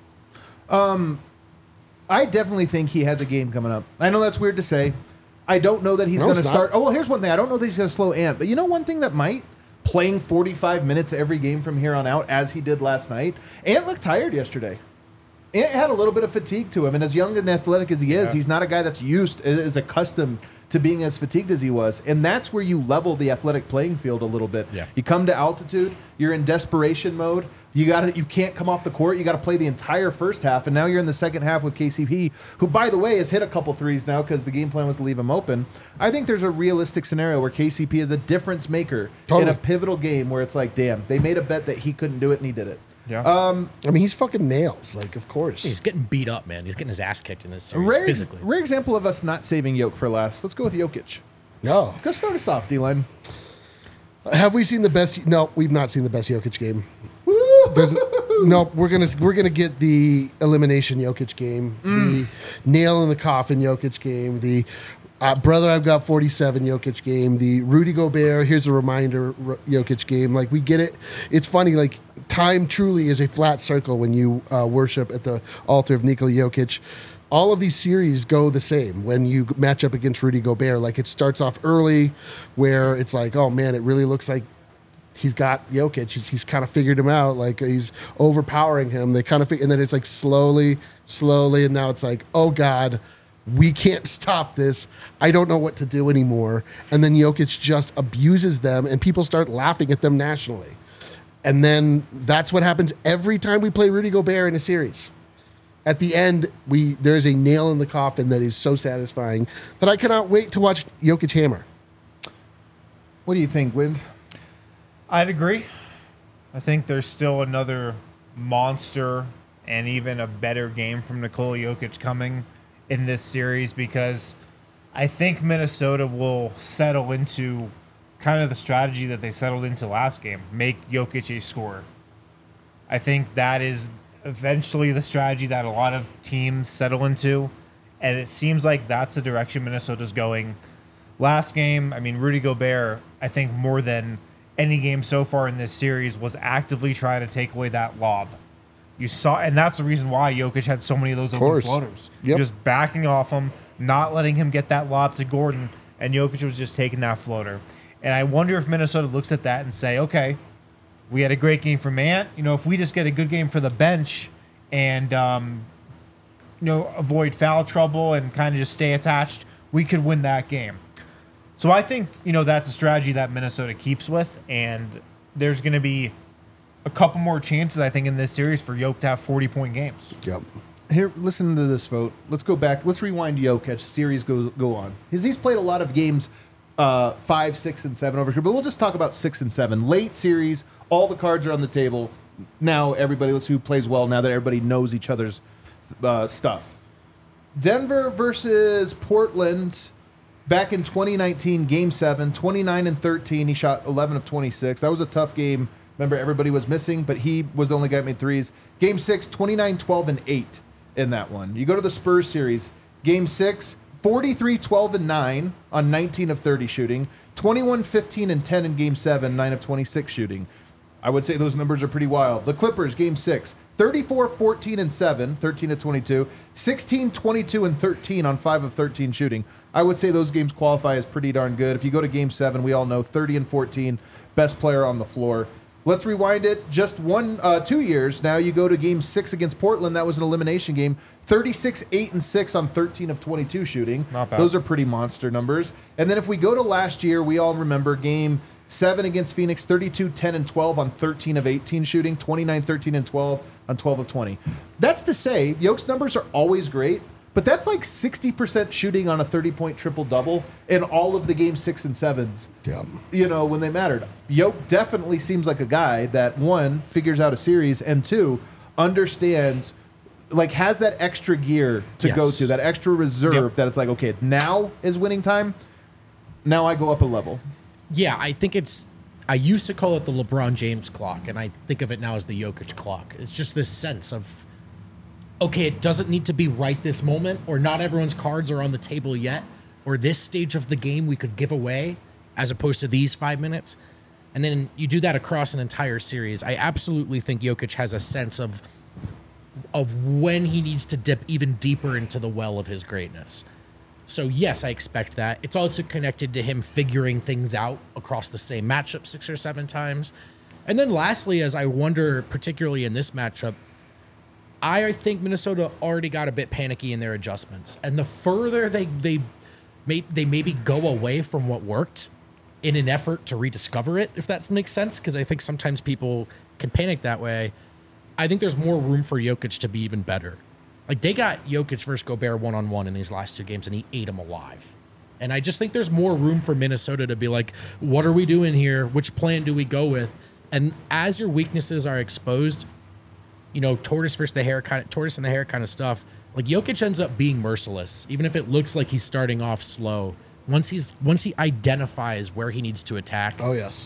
I definitely think he has a game coming up. I know that's weird to say. I don't know that he's No, going to it's not. start. Oh, well, here's one thing. I don't know that he's going to slow Ant, but you know one thing that might? Playing forty-five minutes every game from here on out, as he did last night. Ant looked tired yesterday. Ant had a little bit of fatigue to him, and as young and athletic as he is, Yeah. he's not a guy that's used, is accustomed to being as fatigued as he was. And that's where you level the athletic playing field a little bit. Yeah. You come to altitude, you're in desperation mode. You got to you can't come off the court. You got to play the entire first half, and now you're in the second half with K C P, who, by the way, has hit a couple threes now because the game plan was to leave him open. I think there's a realistic scenario where K C P is a difference maker Totally. in a pivotal game where it's like, damn, they made a bet that he couldn't do it, and he did it. Yeah. Um, I mean, he's fucking nails. Like, of course. He's getting beat up, man. He's getting his ass kicked in this series rare, physically. rare example of us not saving Jokic for last. Let's go with Jokic. No. Go start us off, D-line. Have we seen the best? No, we've not seen the best Jokic game. There's, no, we're gonna we're gonna get the elimination Jokic game, the nail in the coffin Jokic game, the uh, brother I've got forty-seven Jokic game, the Rudy Gobert. Here's a reminder R- Jokic game. Like we get it. It's funny. Like time truly is a flat circle when you uh, worship at the altar of Nikola Jokic. All of these series go the same when you match up against Rudy Gobert. Like it starts off early, where it's like, oh man, it really looks like he's got Jokic. He's, he's kind of figured him out. Like he's overpowering him. They kind of, fig- and then it's like slowly, slowly, and now it's like, oh God, we can't stop this. I don't know what to do anymore. And then Jokic just abuses them, and people start laughing at them nationally. And then that's what happens every time we play Rudy Gobert in a series. At the end, we there's a nail in the coffin that is so satisfying that I cannot wait to watch Jokic hammer. What do you think, Wind? I'd agree. I think there's still another monster and even a better game from Nikola Jokic coming in this series because I think Minnesota will settle into kind of the strategy that they settled into last game, make Jokic a scorer. I think that is eventually the strategy that a lot of teams settle into, and it seems like that's the direction Minnesota's going. Last game, I mean, Rudy Gobert, I think more than any game so far in this series, was actively trying to take away that lob. You saw, and that's the reason why Jokic had so many of those open course. floaters. Yep. Just backing off him, not letting him get that lob to Gordon, and Jokic was just taking that floater. And I wonder if Minnesota looks at that and say, okay, we had a great game from Ant. You know, if we just get a good game for the bench and, um, you know, avoid foul trouble and kind of just stay attached, we could win that game. So I think, you know, that's a strategy that Minnesota keeps with, and there's going to be a couple more chances, I think, in this series for Jokic to have forty-point games. Yep. Here, listen to this vote. Let's go back. Let's rewind Jokic. Series go go on. He's, he's played a lot of games, uh, five, six, and seven over here, but we'll just talk about six and seven. Late series, all the cards are on the table. Now everybody, let's who plays well. Now that everybody knows each other's uh, stuff. Denver versus Portland. Back in twenty nineteen, Game seven, twenty-nine and thirteen. He shot eleven of twenty-six. That was a tough game. Remember, everybody was missing, but he was the only guy that made threes. Game six, twenty-nine, twelve, and eight in that one. You go to the Spurs series. Game six, forty-three, twelve, and nine on nineteen of thirty shooting. twenty-one, fifteen, and ten in Game seven, nine of twenty-six shooting. I would say those numbers are pretty wild. The Clippers, Game six, thirty-four, fourteen, and seven, thirteen of twenty-two. sixteen, twenty-two, and thirteen on five of thirteen shooting. I would say those games qualify as pretty darn good. If you go to Game seven, we all know thirty and fourteen, best player on the floor. Let's rewind it just one, uh, two years. Now you go to Game six against Portland. That was an elimination game. thirty-six, eight, and six on thirteen of twenty-two shooting. Not bad. Those are pretty monster numbers. And then if we go to last year, we all remember Game seven against Phoenix, thirty-two, ten, and twelve on thirteen of eighteen shooting, twenty-nine, thirteen, and twelve on twelve of twenty. That's to say, Yoke's numbers are always great, but that's like sixty percent shooting on a thirty-point triple-double in all of the game six and sevens, Yeah. you know, when they mattered. Yoke definitely seems like a guy that, one, figures out a series, and two, understands, like, has that extra gear to Yes. go to, that extra reserve Yep. that it's like, okay, now is winning time. Now I go up a level. Yeah, I think it's. I used to call it the LeBron James clock, and I think of it now as the Jokic clock. It's just this sense of, okay, it doesn't need to be right this moment, or not everyone's cards are on the table yet, or this stage of the game we could give away, as opposed to these five minutes. And then you do that across an entire series. I absolutely think Jokic has a sense of of when he needs to dip even deeper into the well of his greatness. So yes, I expect that. It's also connected to him figuring things out across the same matchup six or seven times. And then lastly, as I wonder, particularly in this matchup, I think Minnesota already got a bit panicky in their adjustments. And the further they they may they maybe go away from what worked in an effort to rediscover it, if that makes sense, because I think sometimes people can panic that way. I think there's more room for Jokic to be even better. Like, they got Jokic versus Gobert one-on-one in these last two games, and he ate them alive. And I just think there's more room for Minnesota to be like, what are we doing here? Which plan do we go with? And as your weaknesses are exposed, you know, tortoise versus the hare kind of, tortoise and the hare kind of stuff, like, Jokic ends up being merciless, even if it looks like he's starting off slow. Once he's once he identifies where he needs to attack, Oh, yes.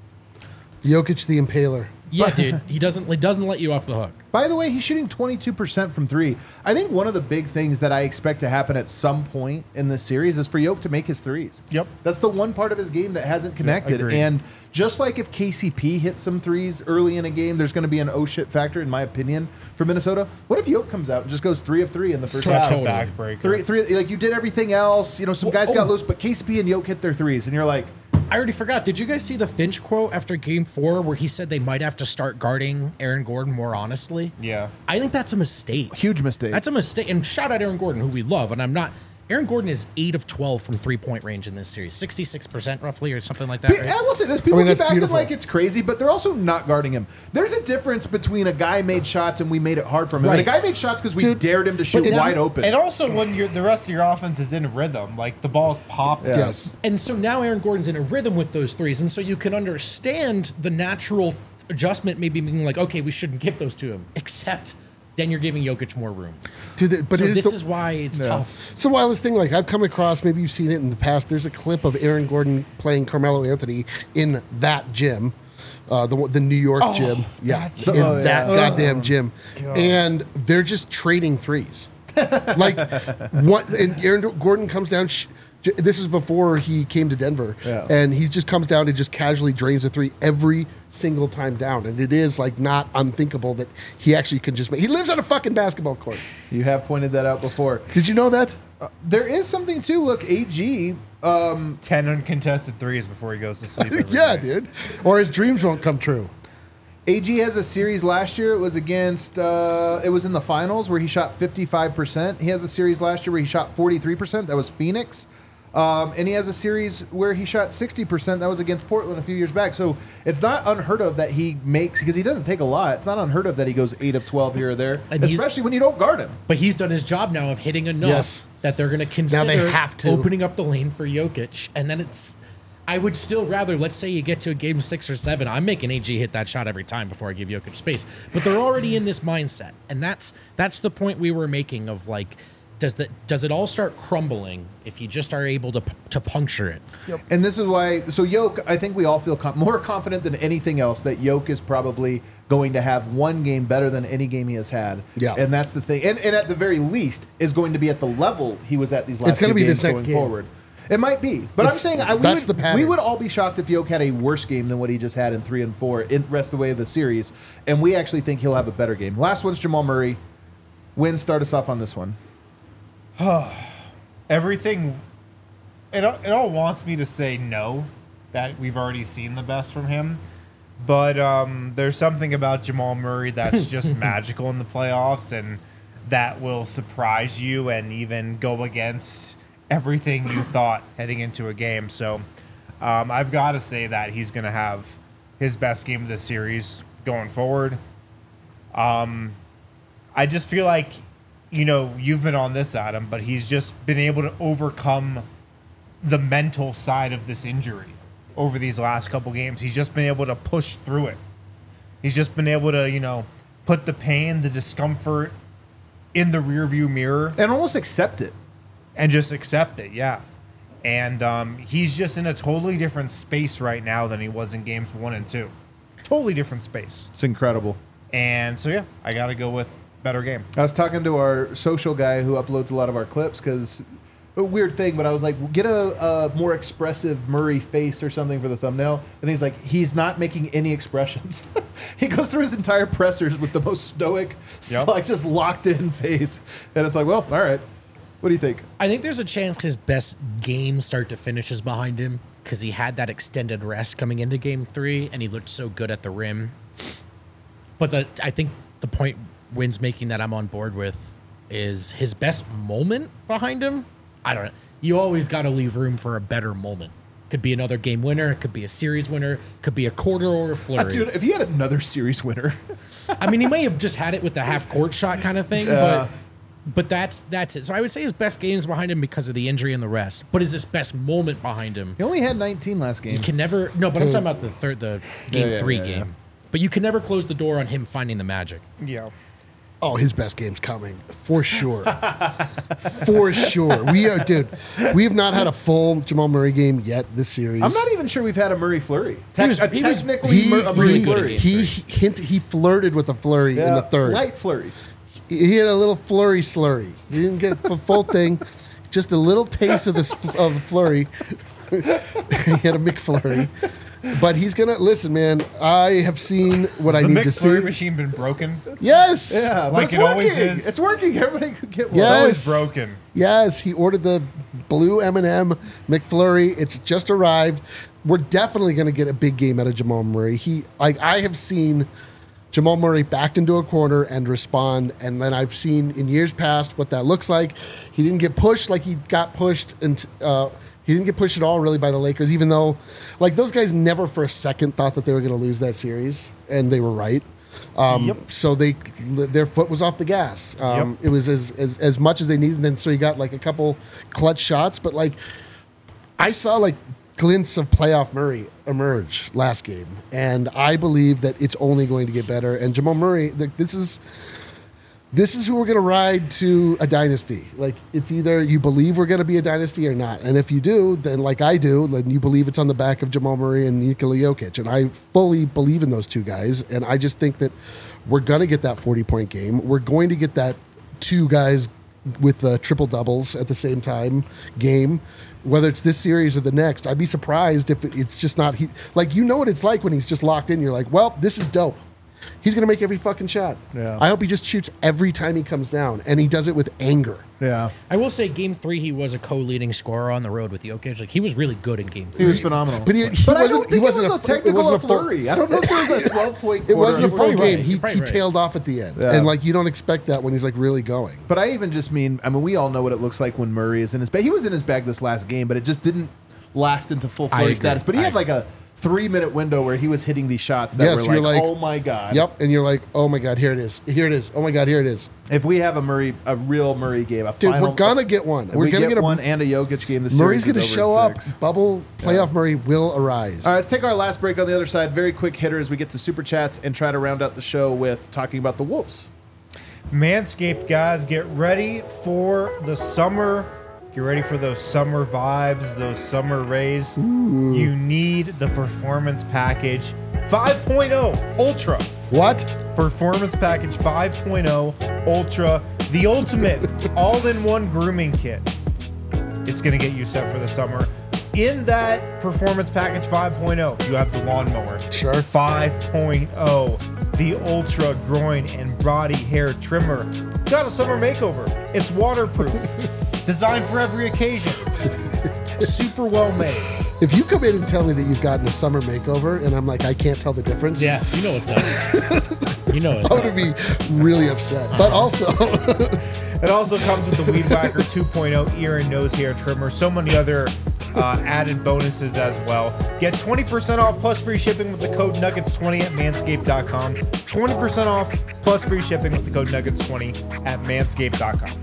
Jokic the Impaler. yeah, dude, he doesn't he doesn't let you off the hook. By the way, he's shooting twenty-two percent from three. I think one of the big things that I expect to happen at some point in this series is for Yoke to make his threes. Yep. That's the one part of his game that hasn't connected. agreed. And just like if K C P hits some threes early in a game, there's going to be an oh shit factor, in my opinion, for Minnesota. What if Yoke comes out and just goes three of three in the first Such half? a Totally. backbreaker. Three, three, like you did everything else. You know, some Well, guys got oh. loose, but K C P and Yoke hit their threes, and you're like, I already forgot. Did you guys see the Finch quote after game four where he said they might have to start guarding Aaron Gordon more honestly? Yeah. I think that's a mistake. huge mistake. That's a mistake. And shout out Aaron Gordon, who we love. And I'm not. Aaron Gordon is eight of twelve from three point range in this series, sixty-six percent roughly, or something like that. But Right? I will say this: people I mean, keep that's acting beautiful. like it's crazy, but they're also not guarding him. There's a difference between a guy made shots and we made it hard for him, and a Right. guy made shots because we Dude, dared him to shoot it- wide open. And also when you're, the rest of your offense is in rhythm, like the ball's popping. Yeah. Yes. And so now Aaron Gordon's in a rhythm with those threes. And so you can understand the natural adjustment maybe being like, okay, we shouldn't give those to him. Except then you're giving Jokic more room. To the, but so it is this the, is why it's Yeah. tough. It's the wildest thing. Like, I've come across, maybe you've seen it in the past. There's a clip of Aaron Gordon playing Carmelo Anthony in that gym, uh, the one- the New York gym. Yeah, that gym. in Oh, yeah. that goddamn gym, God. and they're just trading threes. Like, what? And Aaron Gordon comes down. Sh- j- this was before he came to Denver, Yeah. and he just comes down and just casually drains a three every single time down. And it is like not unthinkable that he actually can just make. He lives on a fucking basketball court. You have pointed that out before. Did you know that? There is something too. Look, A G. Um, ten uncontested threes before he goes to sleep. every Yeah, night. dude. Or his dreams won't come true. A G has a series last year. It was against. Uh, it was in the finals where he shot fifty-five percent. He has a series last year where he shot forty-three percent. That was Phoenix. Um, and he has a series where he shot sixty percent. That was against Portland a few years back. So it's not unheard of that he makes, because he doesn't take a lot. It's not unheard of that he goes eight of twelve here or there, And he's- especially when you don't guard him. But he's done his job now of hitting enough Yes. that they're going to consider have to. opening up the lane for Jokic. And then it's, I would still rather, let's say you get to a game six or seven, I'm making A G hit that shot every time before I give Jokic space. But they're already in this mindset. And that's that's the point we were making of like, does the does it all start crumbling if you just are able to to puncture it? And this is why, so Yoke, I think we all feel com- more confident than anything else that Yoke is probably going to have one game better than any game he has had. Yeah. And that's the thing. And, and at the very least, is going to be at the level he was at these last It's gonna two be games this next going game. forward. It might be. But I'm It's- saying I, we, that's would, the pattern. we would all be shocked if Yoke had a worse game than what he just had in three and four in the rest of the way of the series. And we actually think he'll have a better game. Last one's Jamal Murray. Win, start us off on this one. Everything, it, all- it all wants me to say no, that we've already seen the best from him. But um, there's something about Jamal Murray that's just magical in the playoffs, and that will surprise you and even go against everything you thought heading into a game. So Um, I've got to say that he's going to have his best game of this series going forward. Um, I just feel like, you know, you've been on this, Adam, but he's just been able to overcome the mental side of this injury over these last couple games. He's just been able to push through it. He's just been able to, you know, put the pain, the discomfort in the rearview mirror And almost accept it. and just accept it. Yeah. And um, he's just in a totally different space right now than he was in games one and two. Totally different space. It's incredible. And so, yeah, I got to go with better game. I was talking to our social guy who uploads a lot of our clips because a weird thing, but I was like, get a, a more expressive Murray face or something for the thumbnail. And he's like, he's not making any expressions. He goes through his entire pressers with the most stoic, Yep. like just locked in face. And it's like, well, all right. What do you think? I think there's a chance his best game start to finish is behind him because he had that extended rest coming into game three and he looked so good at the rim. But the, I think the point Wynn's making that I'm on board with is his best moment behind him. I don't know. You always got to leave room for a better moment. Could be another game winner. It could be a series winner. Could be a quarter or a flurry. Uh, dude, if he had another series winner. I mean, he may have just had it with the half court shot kind of thing, Yeah. but but that's that's it. So I would say his best game is behind him because of the injury and the rest. But is his best moment behind him? He only had nineteen last game. You can never. No, but I'm talking about the third, the game Yeah, yeah, three yeah, game. yeah. But you can never close the door on him finding the magic. Yeah. Oh, his best game's coming for sure, for sure. We are, dude. We have not had a full Jamal Murray game yet this series. I'm not even sure we've had a Murray flurry. Te- was- a he was- technically He, Mur- a Murray he, flurry. he, hint, he flirted with a flurry in the third. Light flurries. He had a little flurry slurry. He didn't get the full thing, just a little taste of this of the flurry. He had a McFlurry. But he's gonna listen, man. I have seen what I Has the need to McFlurry see. machine been broken? Yes, Yeah, but Like it's it always working. is. It's working. Everybody could get one. Yeah. It's Yes. always broken. yes. He ordered the blue M and M McFlurry. It's just arrived. We're definitely gonna get a big game out of Jamal Murray. He like I have seen Jamal Murray backed into a corner and respond, and then I've seen in years past what that looks like. He didn't get pushed like he got pushed, and uh, he didn't get pushed at all really by the Lakers, even though like those guys never for a second thought that they were going to lose that series, and they were right. Um, Yep. So they their foot was off the gas. Um, Yep. It was as, as as much as they needed, and then so he got like a couple clutch shots, but like I saw like glints of playoff Murray emerge last game, and I believe that it's only going to get better. And Jamal Murray, th- this is this is who we're going to ride to a dynasty. Like it's either you believe we're going to be a dynasty or not, and if you do, then like I do, then you believe it's on the back of Jamal Murray and Nikola Jokic, and I fully believe in those two guys. And I just think that we're going to get that forty point game. We're going to get that two guys with uh, triple doubles at the same time game, whether it's this series or the next. I'd be surprised if it's just not he. Like you know what it's like when he's just locked in. You're like, well, this is dope. He's gonna make every fucking shot. Yeah. I hope he just shoots every time he comes down, and he does it with anger. Yeah. I will say, game three, he was a co-leading scorer on the road with Jokic. Like he was really good in game He three. was phenomenal. But he- he but I wasn't- don't he think wasn't it a was a fu- it technical wasn't a full- flurry. I don't know if there was a twelve point It wasn't a You're full probably right. game. He, You're probably he right. tailed off at the end, Yeah. and like you don't expect that when he's like really going. But I even just mean, I mean, we all know what it looks like when Murray is in his bag. He was in his bag this last game, but it just didn't last into full I flurry agree. status. But he I had like a three minute window where he was hitting these shots that Yes, were you're like, like- oh my God. Yep, and you're like, oh my god, here it is, here it is, oh my god, here it is, If we have a Murray, a real Murray game, a dude. final, we're gonna get one. if We're we gonna get, get, a one and a Jokic game. The Murray's series gonna is over show in up. six. Bubble playoff Murray will arise. All right, let's take our last break on the other side. Very quick hitter as we get to super chats and try to round out the show with talking about the Wolves. Manscaped, guys, get ready for the summer. Get ready for those summer vibes, those summer rays. You need the Performance Package five point oh Ultra. What? Performance Package five point oh Ultra, the ultimate all-in-one grooming kit. It's going to get you set for the summer. In that Performance Package five point oh, you have the lawnmower. Sure. five point oh, the Ultra Groin and Body Hair Trimmer. Got a summer makeover. It's waterproof. Designed for every occasion. Super well made. If you come in and tell me that you've gotten a summer makeover, and I'm like, I can't tell the difference, Yeah, you know what's up. You know what's I'm up. gonna be really upset. But also, It also comes with the Weed Whacker two point oh ear and nose hair trimmer. So many other uh, added bonuses as well. Get twenty percent off plus free shipping with the code nuggets twenty at manscaped dot com. twenty percent off plus free shipping with the code nuggets twenty at manscaped dot com.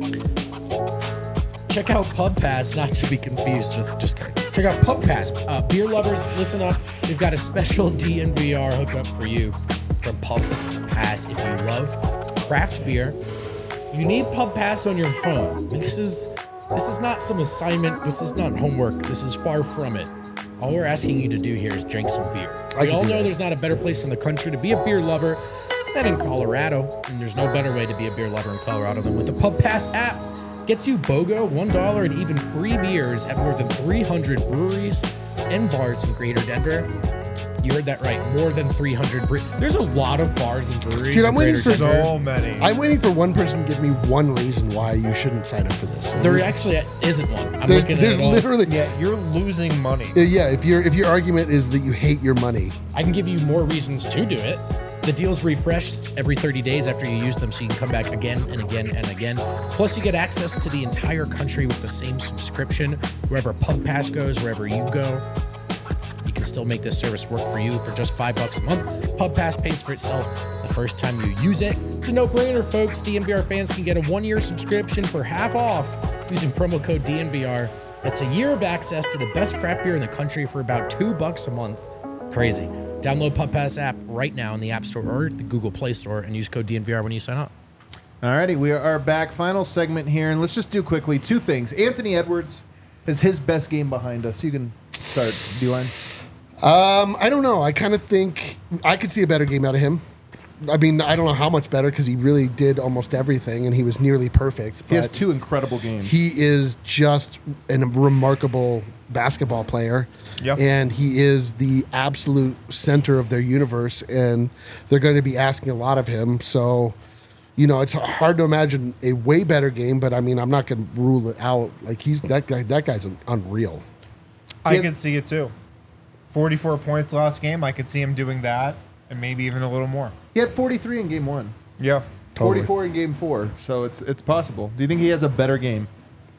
Check out Pub Pass, not to be confused with just kidding. Check out Pub Pass. Uh, beer lovers, listen up. We've got a special D N V R hookup for you from Pub Pass. If you love craft beer, you need Pub Pass on your phone. This is this is not some assignment. This is not homework. This is far from it. All we're asking you to do here is drink some beer. I We can all do know that. there's not a better place in the country to be a beer lover than in Colorado, and there's no better way to be a beer lover in Colorado than with the Pub Pass app. Gets you BOGO, one dollar, and even free beers at more than three hundred breweries and bars in Greater Denver. You heard that right, more than three hundred. Bre- There's a lot of bars and breweries Dude, in I'm waiting Greater for- Denver. So many. I'm waiting for one person to give me one reason why you shouldn't sign up for this. There actually isn't one. I'm There- looking at there's it all. literally Yeah, you're losing money. Uh, yeah. If your if your argument is that you hate your money, I can give you more reasons to do it. The deals refresh every thirty days after you use them, so you can come back again and again and again. Plus, you get access to the entire country with the same subscription. Wherever Pub Pass goes, wherever you go, you can still make this service work for you for just five bucks a month. Pub Pass pays for itself the first time you use it. It's a no-brainer, folks. D N V R fans can get a one-year subscription for half off using promo code D N V R. That's a year of access to the best craft beer in the country for about two bucks a month. Crazy. Download Pub Pass app right now in the App Store or the Google Play Store and use code D N V R when you sign up. Alrighty, we are back. Final segment here, and let's just do quickly two things. Anthony Edwards is his best game behind us. You can start, D-line. um, I don't know. I kind of think I could see a better game out of him. I mean, I don't know how much better because he really did almost everything and he was nearly perfect. He has but two incredible games. He is just a remarkable basketball player. Yep. And he is the absolute center of their universe, and they're going to be asking a lot of him. So, you know, it's hard to imagine a way better game, but I mean, I'm not going to rule it out. Like he's that guy. That guy's unreal. I Yes. could see it too. forty-four points last game. I could see him doing that and maybe even a little more. He had forty-three in game one, Yeah. Totally. forty-four in game four, so it's it's possible. Do you think he has a better game?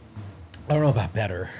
I don't know about better.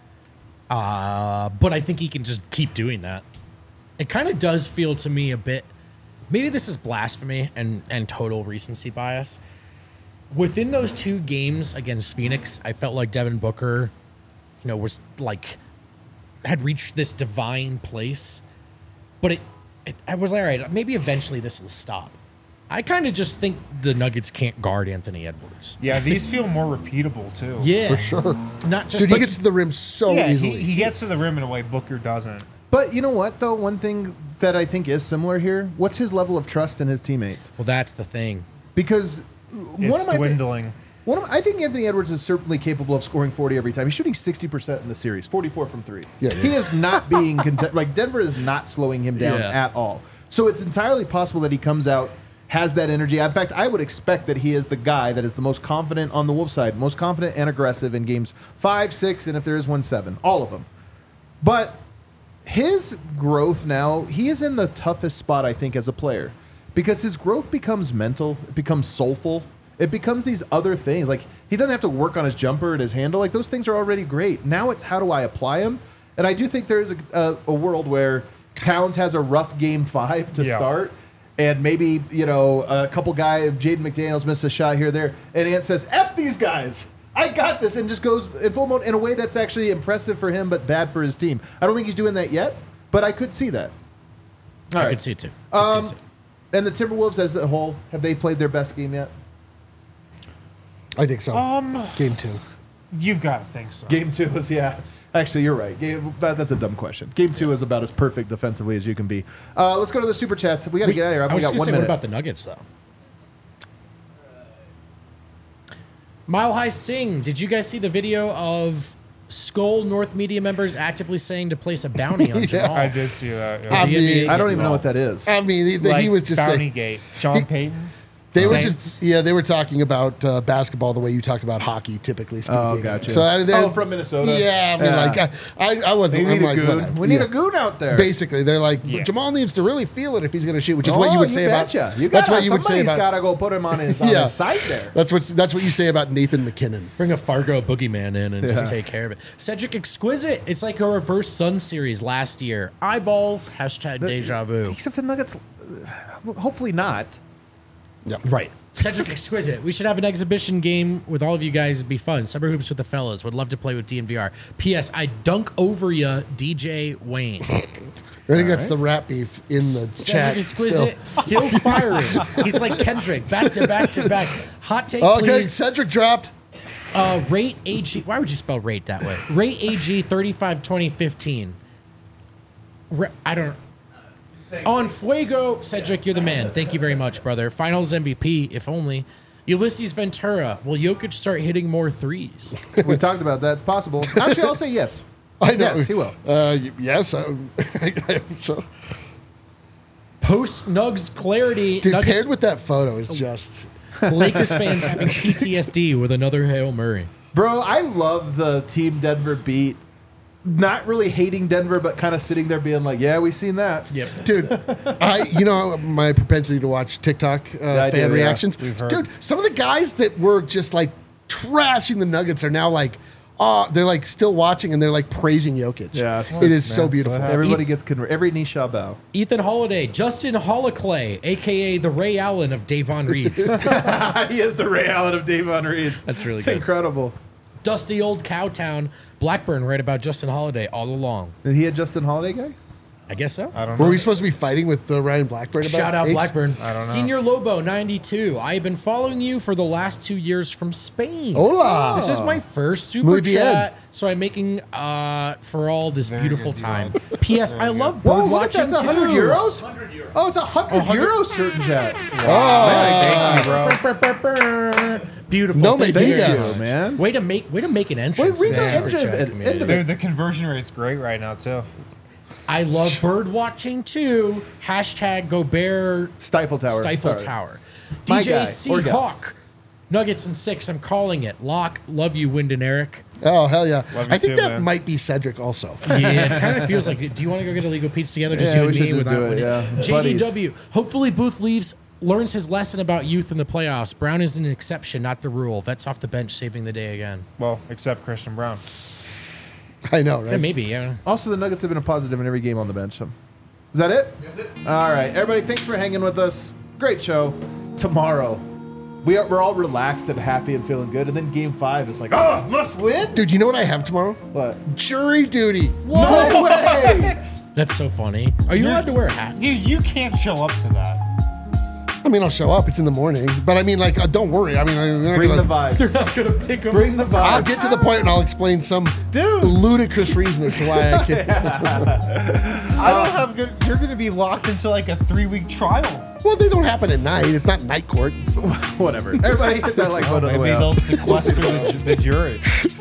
Uh, but I think he can just keep doing that. It kind of does feel to me a bit, maybe this is blasphemy and, and total recency bias. Within those two games against Phoenix, I felt like Devin Booker, you know, was like, had reached this divine place. But it, it I was like, all right, maybe eventually this will stop. I kind of just think the Nuggets can't guard Anthony Edwards. Yeah, these feel more repeatable too. Yeah. For sure. Not just Dude, he like, gets to the rim so Yeah, easily. he, he gets to the rim in a way Booker doesn't. But you know what, though? One thing that I think is similar here, what's his level of trust in his teammates? well, that's the thing. Because It's one of my thi- dwindling. One of, I think Anthony Edwards is certainly capable of scoring forty every time. He's shooting sixty percent in the series, forty-four from three. Yeah. He is not being content. Like Denver is not slowing him down Yeah. at all. So it's entirely possible that he comes out, has that energy. In fact, I would expect that he is the guy that is the most confident on the Wolves side, most confident and aggressive in games five, six, and if there is one, seven, all of them. But his growth now, he is in the toughest spot, I think, as a player, because his growth becomes mental, it becomes soulful, it becomes these other things. Like he doesn't have to work on his jumper and his handle. Like those things are already great. Now it's how do I apply them? And I do think there's a, a, a world where Towns has a rough game five to Yeah. start. And maybe, you know, a couple guys, Jaden McDaniels missed a shot here or there, and Ant says, F these guys. I got this, and just goes in full mode in a way that's actually impressive for him, but bad for his team. I don't think he's doing that yet, but I could see that. All I right. could see it too. I could Um, see it too. And the Timberwolves as a whole, have they played their best game yet? I think so. Um, Game two. you've got to think so. Game two is, yeah. Actually, you're right. Game, that, that's a dumb question. Game two is about as perfect defensively as you can be. Uh, let's go to the super chats. We got to get out of here. I We was got just one gonna say, what minute. about the Nuggets, though? Mile High Sing, did you guys see the video of Skull North Media members actively saying to place a bounty on Yeah. Jamal? I did see that. I Yeah. The N B A mean, I don't even know getting what that is. I mean, he, like he was just Bounty saying. Gate. Sean Payton. They were Saints. just yeah, they were talking about uh, basketball the way you talk about hockey, typically speaking. Oh, gotcha. So I, they're- Oh, from Minnesota? Yeah, I mean, Yeah. like I, I, I wasn't. We I'm need like, a goon. whatever. We need Yeah. a goon out there. Basically, they're like Yeah. Jamal needs to really feel it if he's going to shoot, which is Oh, what you would say betcha. about. You that's gotta, what you would say somebody's about. got to go put him on his, on Yeah. his side there. That's what that's what you say about Nathan McKinnon. Bring a Fargo boogeyman in and Yeah. just take care of it. Cedric Exquisite. It's like a reverse Sun series last year. Eyeballs. Hashtag deja vu. Except the Nuggets, uh, hopefully not. Right. Cedric Exquisite. We should have an exhibition game with all of you guys. It'd be fun. Summer hoops with the fellas. Would love to play with D N V R. P S. I dunk over ya, D J Wayne. I think that's the rap beef in the chat. Cedric Exquisite still, firing. He's like Kendrick, back to back to back. Hot take, Still. Okay, please. Cedric dropped. Uh, rate A G. Why would you spell rate that way? Rate A G thirty-five twenty fifteen. Re- I don't. On Fuego, Cedric, you're the man. Thank you very much, brother. Finals M V P, if only. Ulysses Ventura. Will Jokic start hitting more threes? We talked about that. It's possible. Actually, I'll say yes. I know. Yes, he will. Uh, y- yes, I, I hope so. Post Nugs clarity. Dude, Nuggets, paired with that photo is just. Lakers fans having P T S D with another Hail Murray. Bro, I love the team Denver beat. Not really hating Denver, but kind of sitting there being like, yeah, we seen that. Yep. Dude, I you know my propensity to watch TikTok uh, I fan do, yeah. reactions. We've heard. Dude, some of the guys that were just like trashing the Nuggets are now like, oh, they're like still watching and they're like praising Jokic. Yeah, it's- it is man, so so beautiful. it Everybody Eat- gets converted. Every knee shall bow. Ethan Holiday, Justin Holliclay, a k a the Ray Allen of Davon Reeves. He is the Ray Allen of Davon Reeves. That's really it's good. incredible. Dusty old Cowtown. Blackburn right about Justin Holiday all along. Is he a Justin Holiday guy? I guess so. I don't know. Were we supposed to be fighting with uh, Ryan Blackburn about Shout out takes? Blackburn. I don't know. Senior Lobo ninety-two. I have been following you for the last two years from Spain. Hola. This is my first super Muy bien. chat, so I'm making uh for all this Very beautiful good deal. time. P S. I love Whoa, bird look at that. watching It's one hundred too. euros? Oh, it's a one hundred one hundred euros certain chat. Thank you, bro. Brr, brr, brr, brr. Beautiful. No, Thank man, you thank very you, much. man. Way to make way to make an entrance. Wait, read to the super end of chat it, community. end of it. Dude, the conversion rate's great right now too. I love bird watching too. Hashtag Gobert Stifle Tower. Stifle Sorry. Tower. My D J guy, C or gal. Hawk. Nuggets and six. I'm calling it. Lock. Love you, Wind and Eric. Oh, hell yeah. Love you I think too, that man. might be Cedric also. Yeah, it kind of feels like. Do you want to go get illegal pizza together? Just Yeah, you we and should me just without do it, winning? yeah. J D Buddies. W. Hopefully, Booth leaves. Learns his lesson about youth in the playoffs. Brown is an exception, not the rule. Vets off the bench, saving the day again. Well, except Christian Brown. I know, right? Yeah, maybe. Yeah. Also, the Nuggets have been a positive in every game on the bench. So. Is that it? All right, everybody. Thanks for hanging with us. Great show. Tomorrow, we are we're all relaxed and happy and feeling good. And then Game Five is like, oh, must win. Dude, you know what I have tomorrow? What? Jury duty. No way. That's so funny. Are you allowed to wear a hat? Dude, you can't show up to that. I mean, I'll show up. It's in the morning. But I mean, like, uh, don't worry. I mean, I'm not Bring the gonna- vibe. Not gonna pick him. Bring the vibe. I'll get to the point and I'll explain some Dude. ludicrous reason as to why I can't. I don't have good. You're gonna be locked into like a three week trial. Well, they don't happen at night. It's not night court. Whatever. Everybody hit that like button on the Maybe way they'll out. sequester the, the jury.